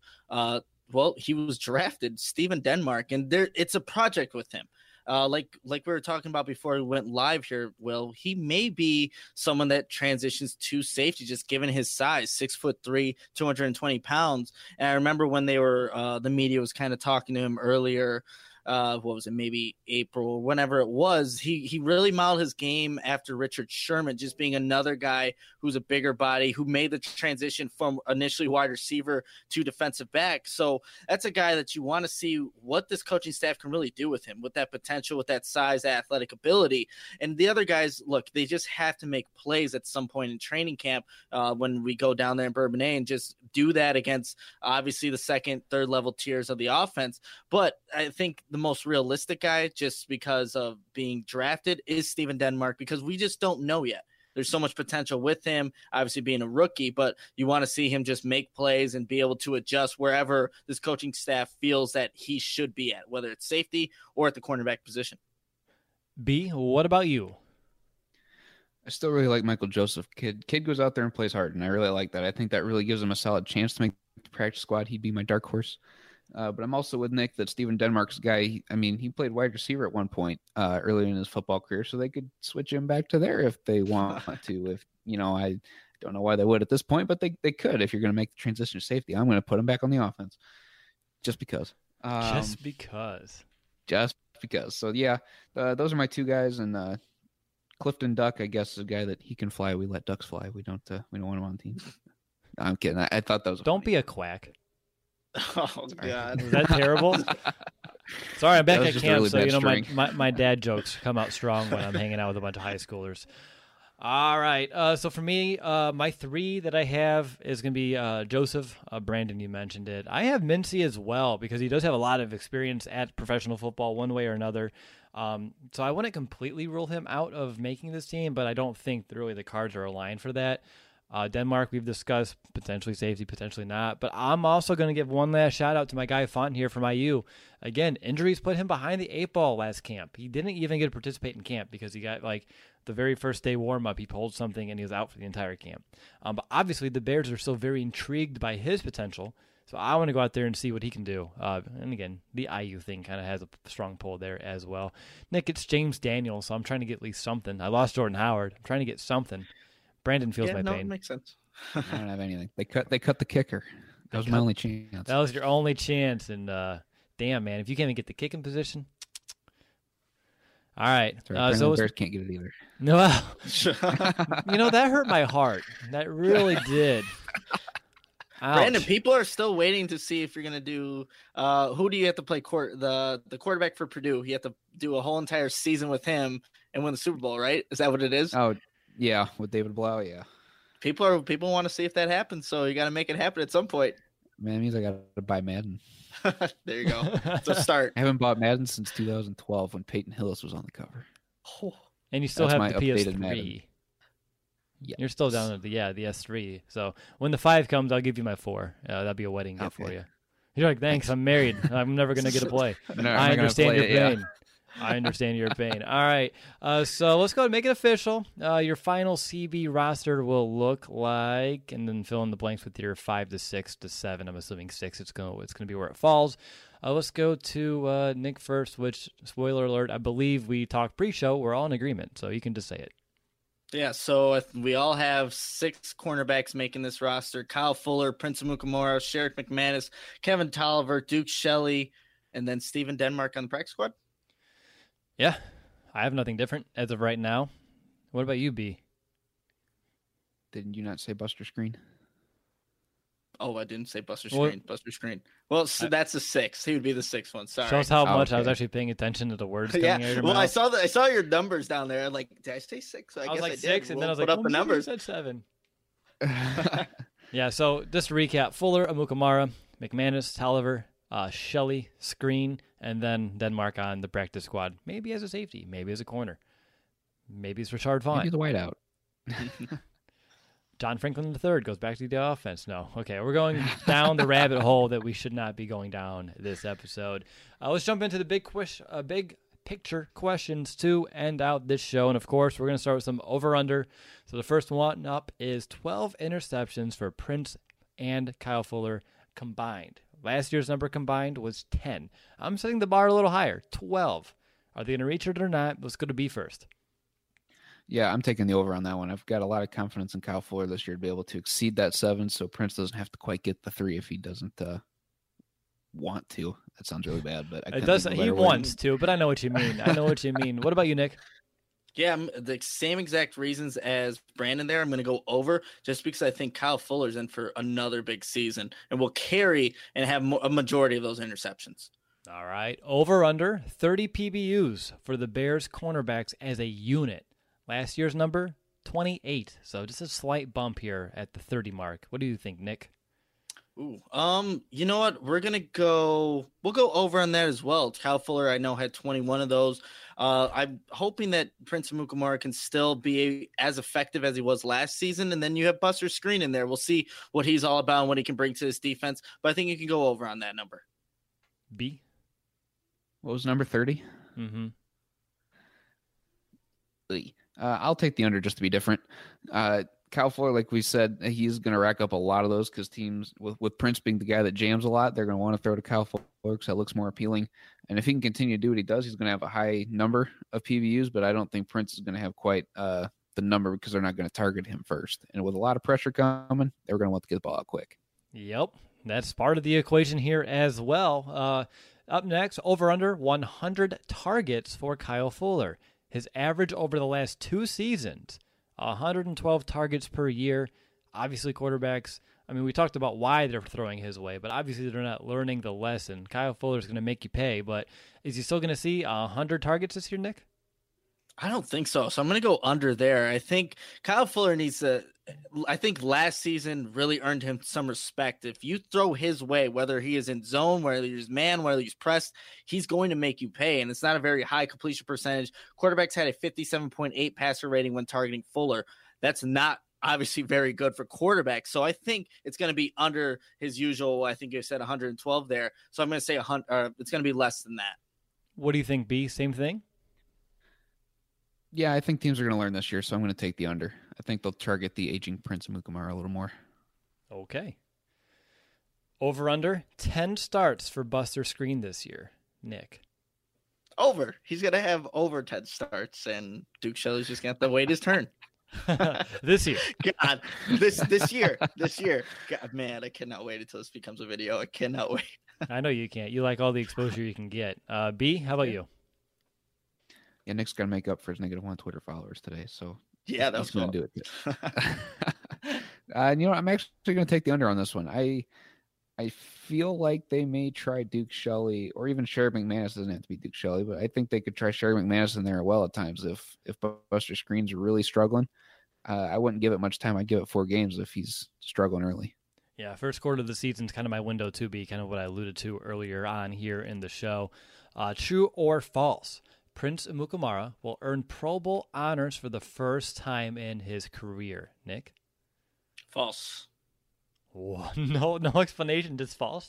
he was drafted, Stephen Denmark, and it's a project with him. Like we were talking about before we went live here, Will, he may be someone that transitions to safety, just given his size, 6'3", 220 pounds. And I remember when they were, the media was kind of talking to him earlier. What was it, maybe April, whenever it was, he really modeled his game after Richard Sherman, just being another guy who's a bigger body, who made the transition from initially wide receiver to defensive back. So that's a guy that you want to see what this coaching staff can really do with him, with that potential, with that size, athletic ability. And the other guys, look, they just have to make plays at some point in training camp when we go down there in Bourbonnais and just do that against obviously the second, third level tiers of the offense. But I think the most realistic guy, just because of being drafted, is Stephen Denmark, because we just don't know yet. There's so much potential with him, obviously being a rookie, but you want to see him just make plays and be able to adjust wherever this coaching staff feels that he should be at, whether it's safety or at the cornerback position. B, what about you? I still really like Michael Joseph. Kid goes out there and plays hard, and I really like that. I think that really gives him a solid chance to make the practice squad. He'd be my dark horse. But I'm also with Nick that Stephen Denmark's guy, he played wide receiver at one point earlier in his football career, so they could switch him back to there if they want to. If, I don't know why they would at this point, but they could. If you're going to make the transition to safety, I'm going to put him back on the offense just because. Just because. So, yeah, those are my two guys. And Clifton Duck, I guess, is a guy that he can fly. We let ducks fly. We don't want him on teams. No, I'm kidding. I thought that was Don't be a quack. Oh, God. Was that terrible? Sorry, I'm back at camp, really so my dad jokes come out strong when I'm hanging out with a bunch of high schoolers. All right, so for me, my three that I have is going to be Joseph. Brandon, you mentioned it. I have Mincy as well, because he does have a lot of experience at professional football one way or another. So I wouldn't completely rule him out of making this team, but I don't think really the cards are aligned for that. Denmark, we've discussed, potentially safety, potentially not. But I'm also going to give one last shout out to my guy Font here from IU. Again, injuries put him behind the 8 ball last camp. He didn't even get to participate in camp because he got the very first day warm up. He pulled something and he was out for the entire camp. But obviously the Bears are still very intrigued by his potential. So I want to go out there and see what he can do. And again, the IU thing kind of has a strong pull there as well. Nick, it's James Daniels, so I'm trying to get at least something. I lost Jordan Howard. I'm trying to get something. Brandon feels my pain. It makes sense. I don't have anything. They cut the kicker. That was my only chance. That was your only chance, and damn, man, if you can't even get the kicking position. All right. So the Bears can't get it either. No, that hurt my heart. That really did. Brandon, people are still waiting to see if you're going to do who do you have to play the quarterback for Purdue? You have to do a whole entire season with him and win the Super Bowl, right? Is that what it is? Oh, yeah, with David Blau, yeah. People want to see if that happens, so you got to make it happen at some point. Man, it means I got to buy Madden. There you go. It's a start. I haven't bought Madden since 2012 when Peyton Hillis was on the cover. And you still That's have the my updated PS3. Madden. Yes. You're still down at the S3. So when the 5 comes, I'll give you my 4. That'll be a wedding gift for you. You're like, thanks, I'm married. I'm never going to get to play. I understand your pain. Yeah. I understand your pain. All right. So let's go ahead and make it official. Your final CB roster will look like, and then fill in the blanks with your 5 to 6 to 7. I'm assuming 6. It's going to be where it falls. Let's go to Nick first, which, spoiler alert, I believe we talked pre-show. We're all in agreement, so you can just say it. Yeah, so we all have 6 cornerbacks making this roster. Kyle Fuller, Prince Amukamara, Sherrick McManus, Kevin Tolliver, Duke Shelley, and then Steven Denmark on the practice squad. Yeah, I have nothing different as of right now. What about you, B? Didn't you not say Buster Screen? Oh, I didn't say Buster Screen. Buster Screen. Well, so that's a 6. He would be the 6th one. Sorry. Shows how much I was actually paying attention to the words coming out of your mouth. I saw your numbers down there. Like, did I say 6? I guess was like I did. 6, and then I was like, put up the numbers. I said 7. Yeah. So just to recap: Fuller, Amukamara, McManus, Tolliver, Shelley, Screen, and then Denmark on the practice squad. Maybe as a safety, maybe as a corner, maybe it's Rashard Fine. Maybe the whiteout. John Franklin III goes back to the offense. No. Okay, we're going down the rabbit hole that we should not be going down this episode. Let's jump into the big picture questions to end out this show. And, of course, we're going to start with some over-under. So the first one up is 12 interceptions for Prince and Kyle Fuller combined. Last year's number combined was 10. I'm setting the bar a little higher, 12. Are they going to reach it or not? Let's go to B first. Yeah, I'm taking the over on that one. I've got a lot of confidence in Kyle Fuller this year to be able to exceed that 7, so Prince doesn't have to quite get the 3 if he doesn't want to. That sounds really bad, but it does. He wants to, but I know what you mean. What about you, Nick? Yeah, the same exact reasons as Brandon there. I'm going to go over just because I think Kyle Fuller's in for another big season and will carry and have a majority of those interceptions. All right. Over under 30 PBUs for the Bears cornerbacks as a unit. Last year's number, 28. So just a slight bump here at the 30 mark. What do you think, Nick? Ooh, you know what? We'll go over on that as well. Kyle Fuller, I know, had 21 of those. I'm hoping that Prince Amukamara can still be as effective as he was last season. And then you have Buster Screen in there. We'll see what he's all about and what he can bring to his defense. But I think you can go over on that number. B? What was number 30? Mm-hmm. I'll take the under just to be different. Kyle Fuller, like we said, he's going to rack up a lot of those because teams, with Prince being the guy that jams a lot, they're going to want to throw to Kyle Fuller because that looks more appealing. And if he can continue to do what he does, he's going to have a high number of PBUs, but I don't think Prince is going to have quite the number because they're not going to target him first. And with a lot of pressure coming, they're going to want to get the ball out quick. Yep, that's part of the equation here as well. Up next, over under 100 targets for Kyle Fuller. His average over the last 2 seasons, 112 targets per year. Obviously, quarterbacks, I mean, we talked about why they're throwing his way, but obviously they're not learning the lesson. Kyle Fuller's going to make you pay, but is he still going to see 100 targets this year, Nick? I don't think so. So I'm going to go under there. I think Kyle Fuller needs to – I think last season really earned him some respect. If you throw his way, whether he is in zone, whether he's man, whether he's pressed, he's going to make you pay. And it's not a very high completion percentage. Quarterbacks had a 57.8 passer rating when targeting Fuller. That's not obviously very good for quarterbacks. So I think it's going to be under his usual, I think you said 112 there. So I'm going to say it's going to be less than that. What do you think, B? Same thing? Yeah, I think teams are going to learn this year, so I'm going to take the under. I think they'll target the aging Prince Amukamara a little more. Okay. Over under 10 starts for Buster Screen this year, Nick. Over. He's going to have over 10 starts, and Duke Shelley's just going to have to wait his turn. This year. God, this year. God, man, I cannot wait until this becomes a video. I cannot wait. I know you can't. You like all the exposure you can get. B, how about you? Yeah, Nick's got to make up for his -1 Twitter followers today, so yeah, that's going to do it. And I'm actually going to take the under on this one. I feel like they may try Duke Shelley, or even Sherry McManus. Doesn't have to be Duke Shelley, but I think they could try Sherry McManus in there well at times if Buster Skrine's really struggling. I wouldn't give it much time. I'd give it 4 games if he's struggling early. Yeah, first quarter of the season is kind of my window to be kind of what I alluded to earlier on here in the show. True or false? Prince Amukamara will earn Pro Bowl honors for the first time in his career. Nick? False. Whoa, no explanation, just false?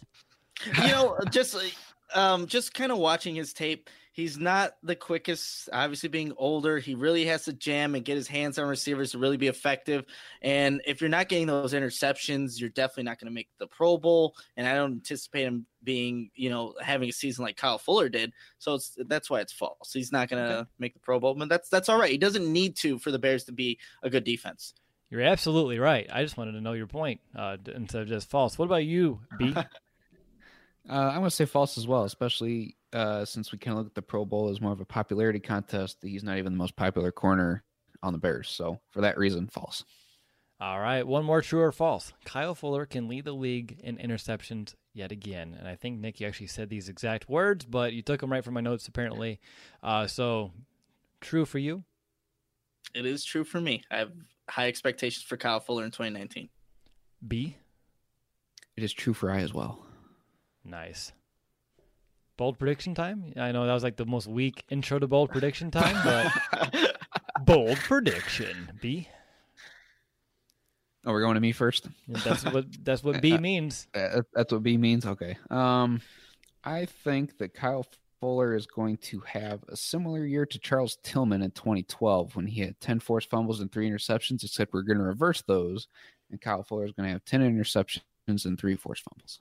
Just kind of watching his tape, he's not the quickest. Obviously, being older, he really has to jam and get his hands on receivers to really be effective. And if you're not getting those interceptions, you're definitely not going to make the Pro Bowl. And I don't anticipate him being, having a season like Kyle Fuller did. So that's why it's false. He's not going to make the Pro Bowl, but that's all right. He doesn't need to for the Bears to be a good defense. You're absolutely right. I just wanted to know your point instead of just false. What about you, B? I'm going to say false as well, especially since we kind of look at the Pro Bowl as more of a popularity contest. He's not even the most popular corner on the Bears. So for that reason, false. All right, one more true or false. Kyle Fuller can lead the league in interceptions yet again. And I think, Nick, you actually said these exact words, but you took them right from my notes apparently. So true for you? It is true for me. I have high expectations for Kyle Fuller in 2019. B? It is true for I as well. Nice. Bold prediction time? I know that was like the most weak intro to bold prediction time, but bold prediction. B? Oh, we're going to me first? That's what B means. That's what B means? Okay. I think that Kyle Fuller is going to have a similar year to Charles Tillman in 2012 when he had 10 forced fumbles and 3 interceptions, except we're going to reverse those, and Kyle Fuller is going to have 10 interceptions and 3 forced fumbles.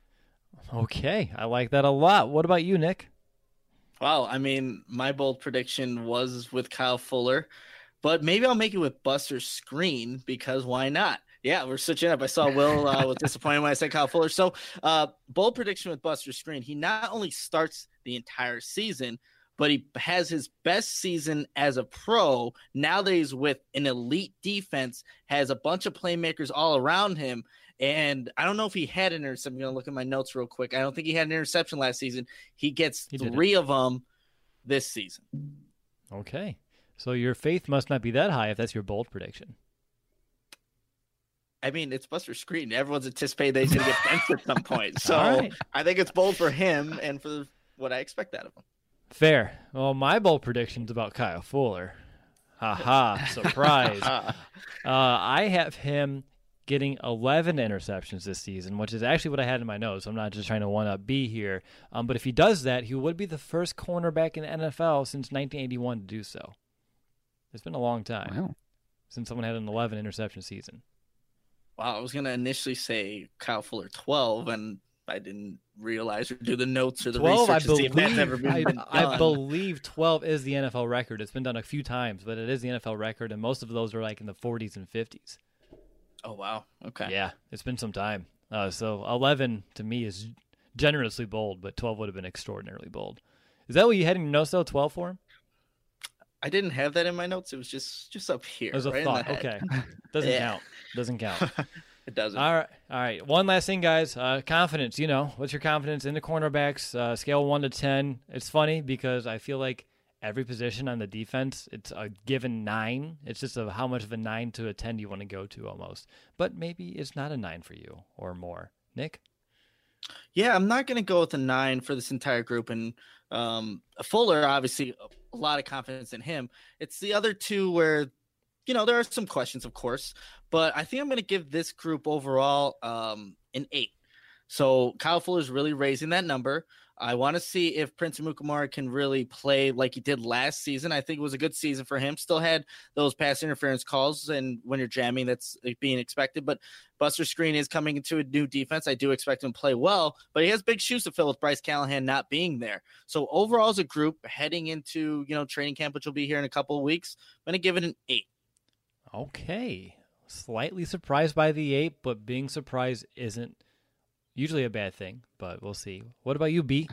Okay, I like that a lot. What about you, Nick? Wow, I mean, my bold prediction was with Kyle Fuller, but maybe I'll make it with Buster Skrine because why not? Yeah, we're switching up. I saw Will was disappointed when I said Kyle Fuller. So, bold prediction with Buster Skrine. He not only starts the entire season, but he has his best season as a pro now that he's with an elite defense, has a bunch of playmakers all around him. And I don't know if he had an interception. I'm going to look at my notes real quick. I don't think he had an interception last season. He gets 3 of them this season. Okay. So your faith must not be that high if that's your bold prediction. I mean, it's Buster Skrine. Everyone's anticipating that he's going to get benched at some point. So right. I think it's bold for him and for what I expect out of him. Fair. Well, my bold prediction's about Kyle Fuller. Ha-ha, surprise. I have him getting 11 interceptions this season, which is actually what I had in my notes. I'm not just trying to one-up B here. But if he does that, he would be the first cornerback in the NFL since 1981 to do so. It's been a long time since someone had an 11 interception season. Wow, I was going to initially say Kyle Fuller 12, and I didn't realize or do the notes or the 12, research to see if that's ever been done. I believe 12 is the NFL record. It's been done a few times, but it is the NFL record, and most of those are like in the 40s and 50s. Oh, wow. Okay. Yeah, it's been some time. So 11 to me is generously bold, but 12 would have been extraordinarily bold. Is that what you had in your notes, though, 12 for him? I didn't have that in my notes. It was just up here. It was a right thought. In the head. Okay. Doesn't count. It doesn't. All right. One last thing, guys. Confidence. What's your confidence in the cornerbacks? Scale 1 to 10. It's funny because I feel like every position on the defense, it's a given 9. It's just how much of a 9 to a 10 do you want to go to almost. But maybe it's not a 9 for you or more. Nick? Yeah, I'm not going to go with a 9 for this entire group. And Fuller, obviously, a lot of confidence in him. It's the other two where, there are some questions, of course. But I think I'm going to give this group overall an 8. So Kyle Fuller's really raising that number. I want to see if Prince Amukamara can really play like he did last season. I think it was a good season for him. Still had those pass interference calls, and when you're jamming, that's being expected. But Buster Skrine is coming into a new defense. I do expect him to play well, but he has big shoes to fill with Bryce Callahan not being there. So overall, as a group, heading into training camp, which will be here in a couple of weeks, I'm going to give it an 8. Okay. Slightly surprised by the 8, but being surprised isn't usually a bad thing, but we'll see. What about you, B?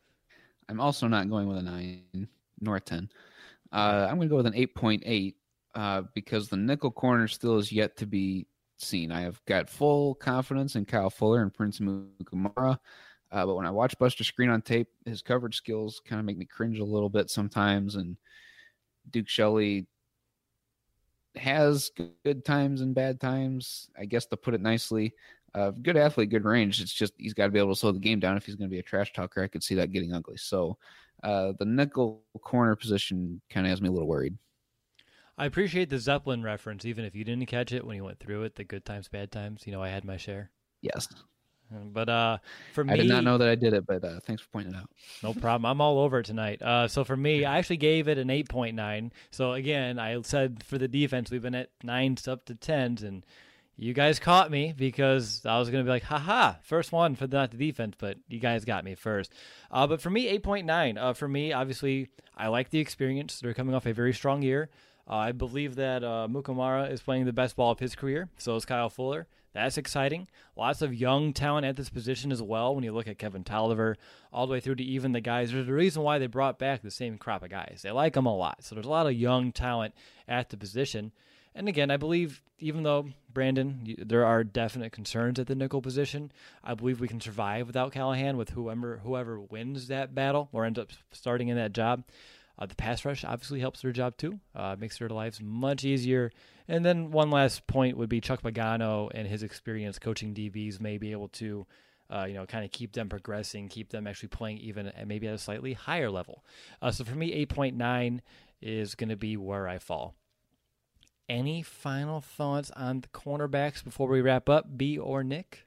I'm also not going with a 9 nor a 10. I'm going to go with an 8.8 because the nickel corner still is yet to be seen. I have got full confidence in Kyle Fuller and Prince Amukamara. But when I watch Buster Skrine on tape, his coverage skills kind of make me cringe a little bit sometimes. And Duke Shelley has good times and bad times, I guess, to put it nicely. Good athlete, good range. It's just he's got to be able to slow the game down if he's going to be a trash talker. I could see that getting ugly. So the nickel corner position kind of has me a little worried. I appreciate the Zeppelin reference, even if you didn't catch it when you went through it, the good times, bad times. I had my share. Yes. But for me, I did not know that I did it, but thanks for pointing it out. No problem. I'm all over it tonight. So for me, I actually gave it an 8.9. So again, I said for the defense, we've been at 9s up to 10s, and you guys caught me because I was going to be like, haha, first one for not the defense, but you guys got me first. But for me, 8.9. For me, obviously, I like the experience. They're coming off a very strong year. I believe that Mukamara is playing the best ball of his career. So is Kyle Fuller. That's exciting. Lots of young talent at this position as well. When you look at Kevin Tolliver, all the way through to even the guys, there's a reason why they brought back the same crop of guys. They like them a lot. So there's a lot of young talent at the position. And again, I believe, even though, Brandon, there are definite concerns at the nickel position, I believe we can survive without Callahan with whoever wins that battle or ends up starting in that job. The pass rush obviously helps their job too, makes their lives much easier. And then one last point would be Chuck Pagano and his experience coaching DBs may be able to, kind of keep them progressing, keep them actually playing even at maybe at a slightly higher level. So for me, 8.9 is going to be where I fall. Any final thoughts on the cornerbacks before we wrap up, B or Nick?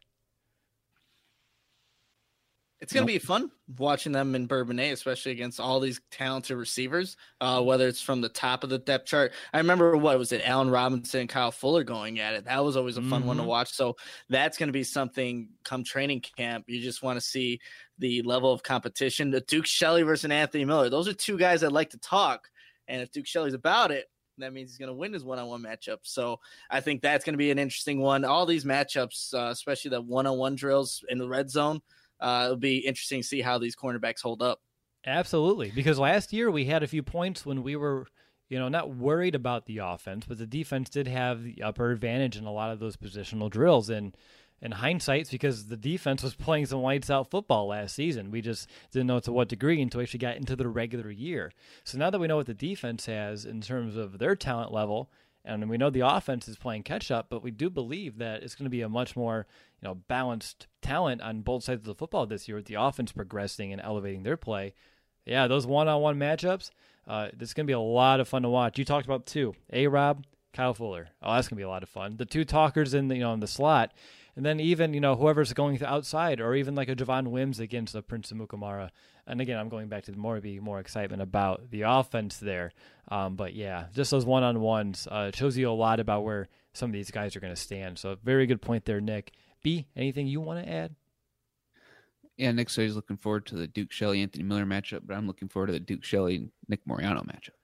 It's going to be fun watching them in Bourbonnais, especially against all these talented receivers, whether it's from the top of the depth chart. I remember, Allen Robinson and Kyle Fuller going at it. That was always a fun one to watch. So that's going to be something come training camp. You just want to see the level of competition. The Duke Shelley versus Anthony Miller. Those are two guys that like to talk. And if Duke Shelley's about it, that means he's going to win his one-on-one matchup. So I think that's going to be an interesting one. All these matchups, especially the one-on-one drills in the red zone, it'll be interesting to see how these cornerbacks hold up. Absolutely, because last year we had a few points when we were, not worried about the offense, but the defense did have the upper advantage in a lot of those positional drills. And in hindsight, it's because the defense was playing some lights-out football last season. We just didn't know to what degree until we actually got into the regular year. So now that we know what the defense has in terms of their talent level, and we know the offense is playing catch-up, but we do believe that it's going to be a much more balanced talent on both sides of the football this year with the offense progressing and elevating their play. Yeah, those one-on-one matchups, this is going to be a lot of fun to watch. You talked about two, A-Rob, Kyle Fuller. Oh, that's going to be a lot of fun. The two talkers in the, in the slot, and then even, whoever's going to outside, or even like a Javon Wims against a Prince Amukamara. And again, I'm going back to more excitement about the offense there. But yeah, just those one-on-ones shows you a lot about where some of these guys are going to stand. So very good point there, Nick. B, anything you want to add? Yeah, Nick said he's looking forward to the Duke Shelley-Anthony Miller matchup, but I'm looking forward to the Duke Shelley-Nick Moriano matchup.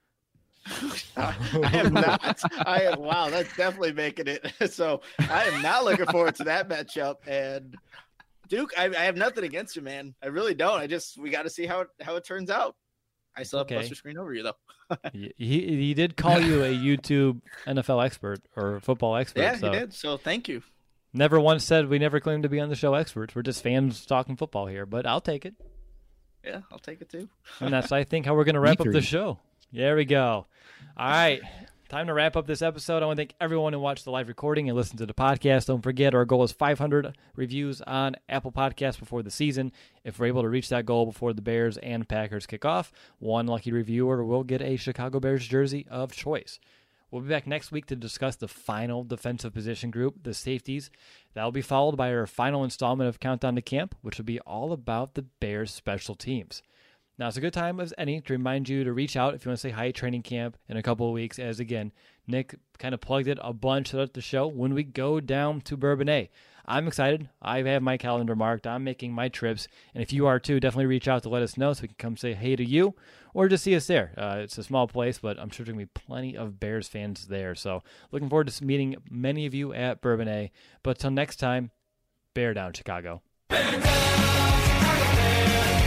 I am not. Wow, that's definitely making it. So I am not looking forward to that matchup. And Duke, I have nothing against you, man. I really don't. We got to see how it turns out. I still have Buster Skrine over you, though. he did call you a YouTube NFL expert or football expert. Yeah, he did. So thank you. Never once said we never claimed to be on the show experts. We're just fans talking football here, but I'll take it. Yeah, I'll take it too. And that's, I think, how we're going to wrap up the show. There we go. All right. Time to wrap up this episode. I want to thank everyone who watched the live recording and listened to the podcast. Don't forget, our goal is 500 reviews on Apple Podcasts before the season. If we're able to reach that goal before the Bears and Packers kick off, one lucky reviewer will get a Chicago Bears jersey of choice. We'll be back next week to discuss the final defensive position group, the safeties. That will be followed by our final installment of Countdown to Camp, which will be all about the Bears' special teams. Now, it's a good time as any to remind you to reach out if you want to say hi at training camp in a couple of weeks, as, again, Nick kind of plugged it a bunch throughout the show when we go down to Bourbonnais. I'm excited. I have my calendar marked. I'm making my trips. And if you are too, definitely reach out to let us know so we can come say hey to you or just see us there. It's a small place, but I'm sure there's going to be plenty of Bears fans there. So looking forward to meeting many of you at Bourbonnais. But till next time, bear down, Chicago. Bear down, Chicago, bear.